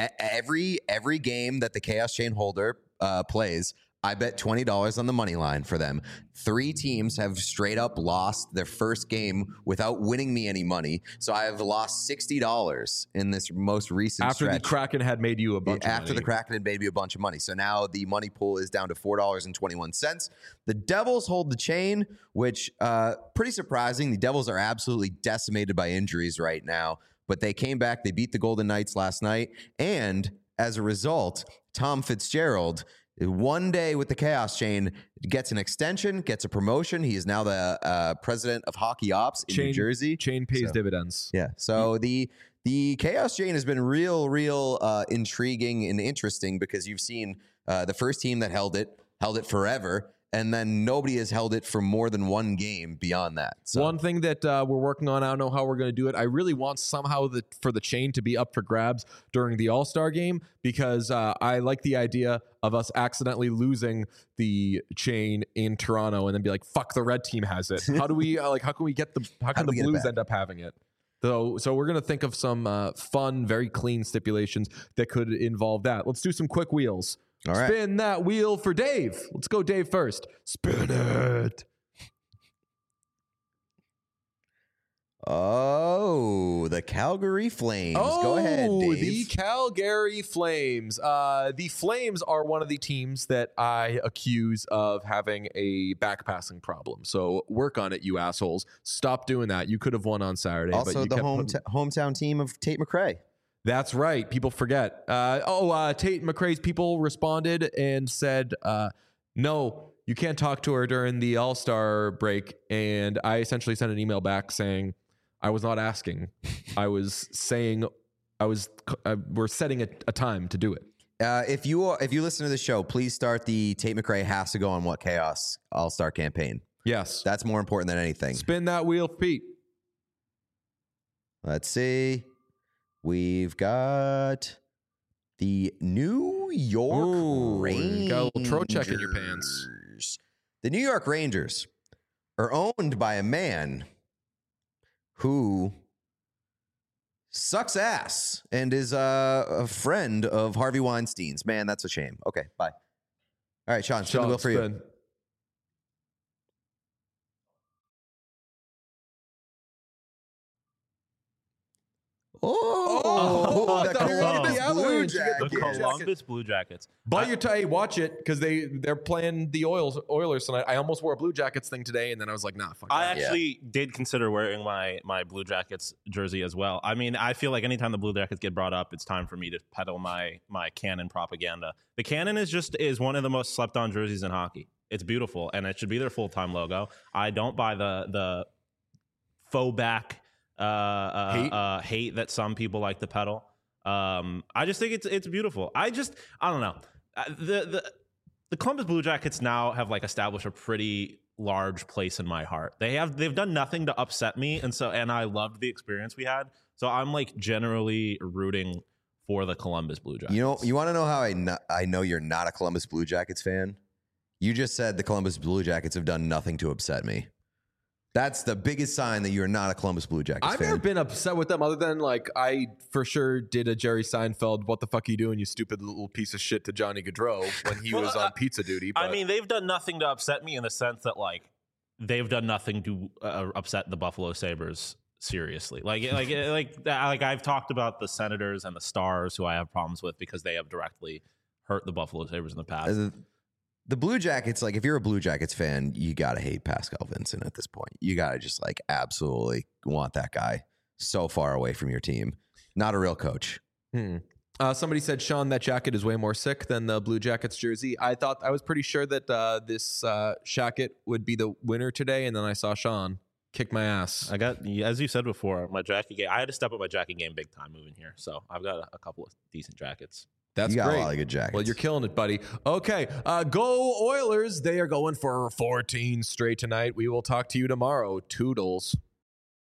every game that the Chaos Chain holder plays, I bet $20 on the money line for them. 3 teams have straight up lost their first game without winning me any money. So I have lost $60 in this most recent stretch. After the Kraken had made you a bunch of money. After the Kraken had made me a bunch of money. So now the money pool is down to $4.21. The Devils hold the chain, which pretty surprising. The Devils are absolutely decimated by injuries right now. But they came back. They beat the Golden Knights last night. And as a result, Tom Fitzgerald, 1 day with the Chaos Chain, gets an extension, gets a promotion. He is now the president of hockey ops in New Jersey. Chain pays dividends. Yeah. So the Chaos Chain has been real intriguing and interesting because you've seen the first team that held it forever. And then nobody has held it for more than 1 game beyond that. So. One thing that we're working on, I don't know how we're going to do it. I really want somehow for the chain to be up for grabs during the All-Star game because I like the idea of us accidentally losing the chain in Toronto and then be like, fuck, the red team has it. How do we how can we get how can the Blues end up having it? So we're going to think of some fun, very clean stipulations that could involve that. Let's do some quick wheels. All right. Spin that wheel for Dave. Let's go Dave first. Spin it. Oh, the Calgary Flames. Go ahead, Dave. The Calgary Flames. The Flames are one of the teams that I accuse of having a backpassing problem. So work on it, you assholes. Stop doing that. You could have won on Saturday. Also, but you the hometown team of Tate McRae. That's right. People forget. Tate McRae's people responded and said, no, you can't talk to her during the All-Star break. And I essentially sent an email back saying, I was not asking. I was saying we're setting a time to do it. If you listen to the show, please start the Tate McRae has to go on What Chaos All-Star campaign. Yes. That's more important than anything. Spin that wheel, Pete. Let's see. We've got the New York Rangers. You got a little Trocheck in your pants. The New York Rangers are owned by a man who sucks ass and is a friend of Harvey Weinstein's. Man, that's a shame. Okay, bye. All right, Sean, spin the wheel for you. Oh, I the thought you were gonna get Columbus the Blue Avalanche. You get The the Jackets. Columbus Blue Jackets. But you're hey, watch it because they're playing the Oilers tonight. I almost wore a Blue Jackets thing today, and then I was like, nah, fuck I that. actually did consider wearing my Blue Jackets jersey as well. I mean, I feel like anytime the Blue Jackets get brought up, it's time for me to peddle my Cannon propaganda. The Cannon is one of the most slept on jerseys in hockey. It's beautiful, and it should be their full-time logo. I don't buy the faux back hate that some people like to peddle. I just think it's beautiful. I don't know. The Columbus Blue Jackets now have like established a pretty large place in my heart. They've done nothing to upset me, and I loved the experience we had. So I'm like generally rooting for the Columbus Blue Jackets. You know, you want to know how I know you're not a Columbus Blue Jackets fan? You just said the Columbus Blue Jackets have done nothing to upset me. That's the biggest sign that you're not a Columbus Blue Jackets I've fan. never been upset with them other than like I for sure did a Jerry Seinfeld, what the fuck are you doing, you stupid little piece of shit to Johnny Gaudreau when he was on pizza duty. But I mean, they've done nothing to upset me in the sense that like they've done nothing to upset the Buffalo Sabres seriously. Like I've talked about the Senators and the Stars who I have problems with because they have directly hurt the Buffalo Sabres in the past. The Blue Jackets, like if you're a Blue Jackets fan, you got to hate Pascal Vincent at this point. You got to just like absolutely want that guy so far away from your team. Not a real coach. Somebody said, Sean, that jacket is way more sick than the Blue Jackets jersey. I was pretty sure that this jacket would be the winner today, and then I saw Sean kick my ass. I got, as you said before, my jacket game. I had to step up my jacket game big time moving here, so I've got a couple of decent jackets. That's you got great. a lot of good jackets. Well, you're killing it, buddy. Okay, go Oilers. They are going for 14 straight tonight. We will talk to you tomorrow. Toodles.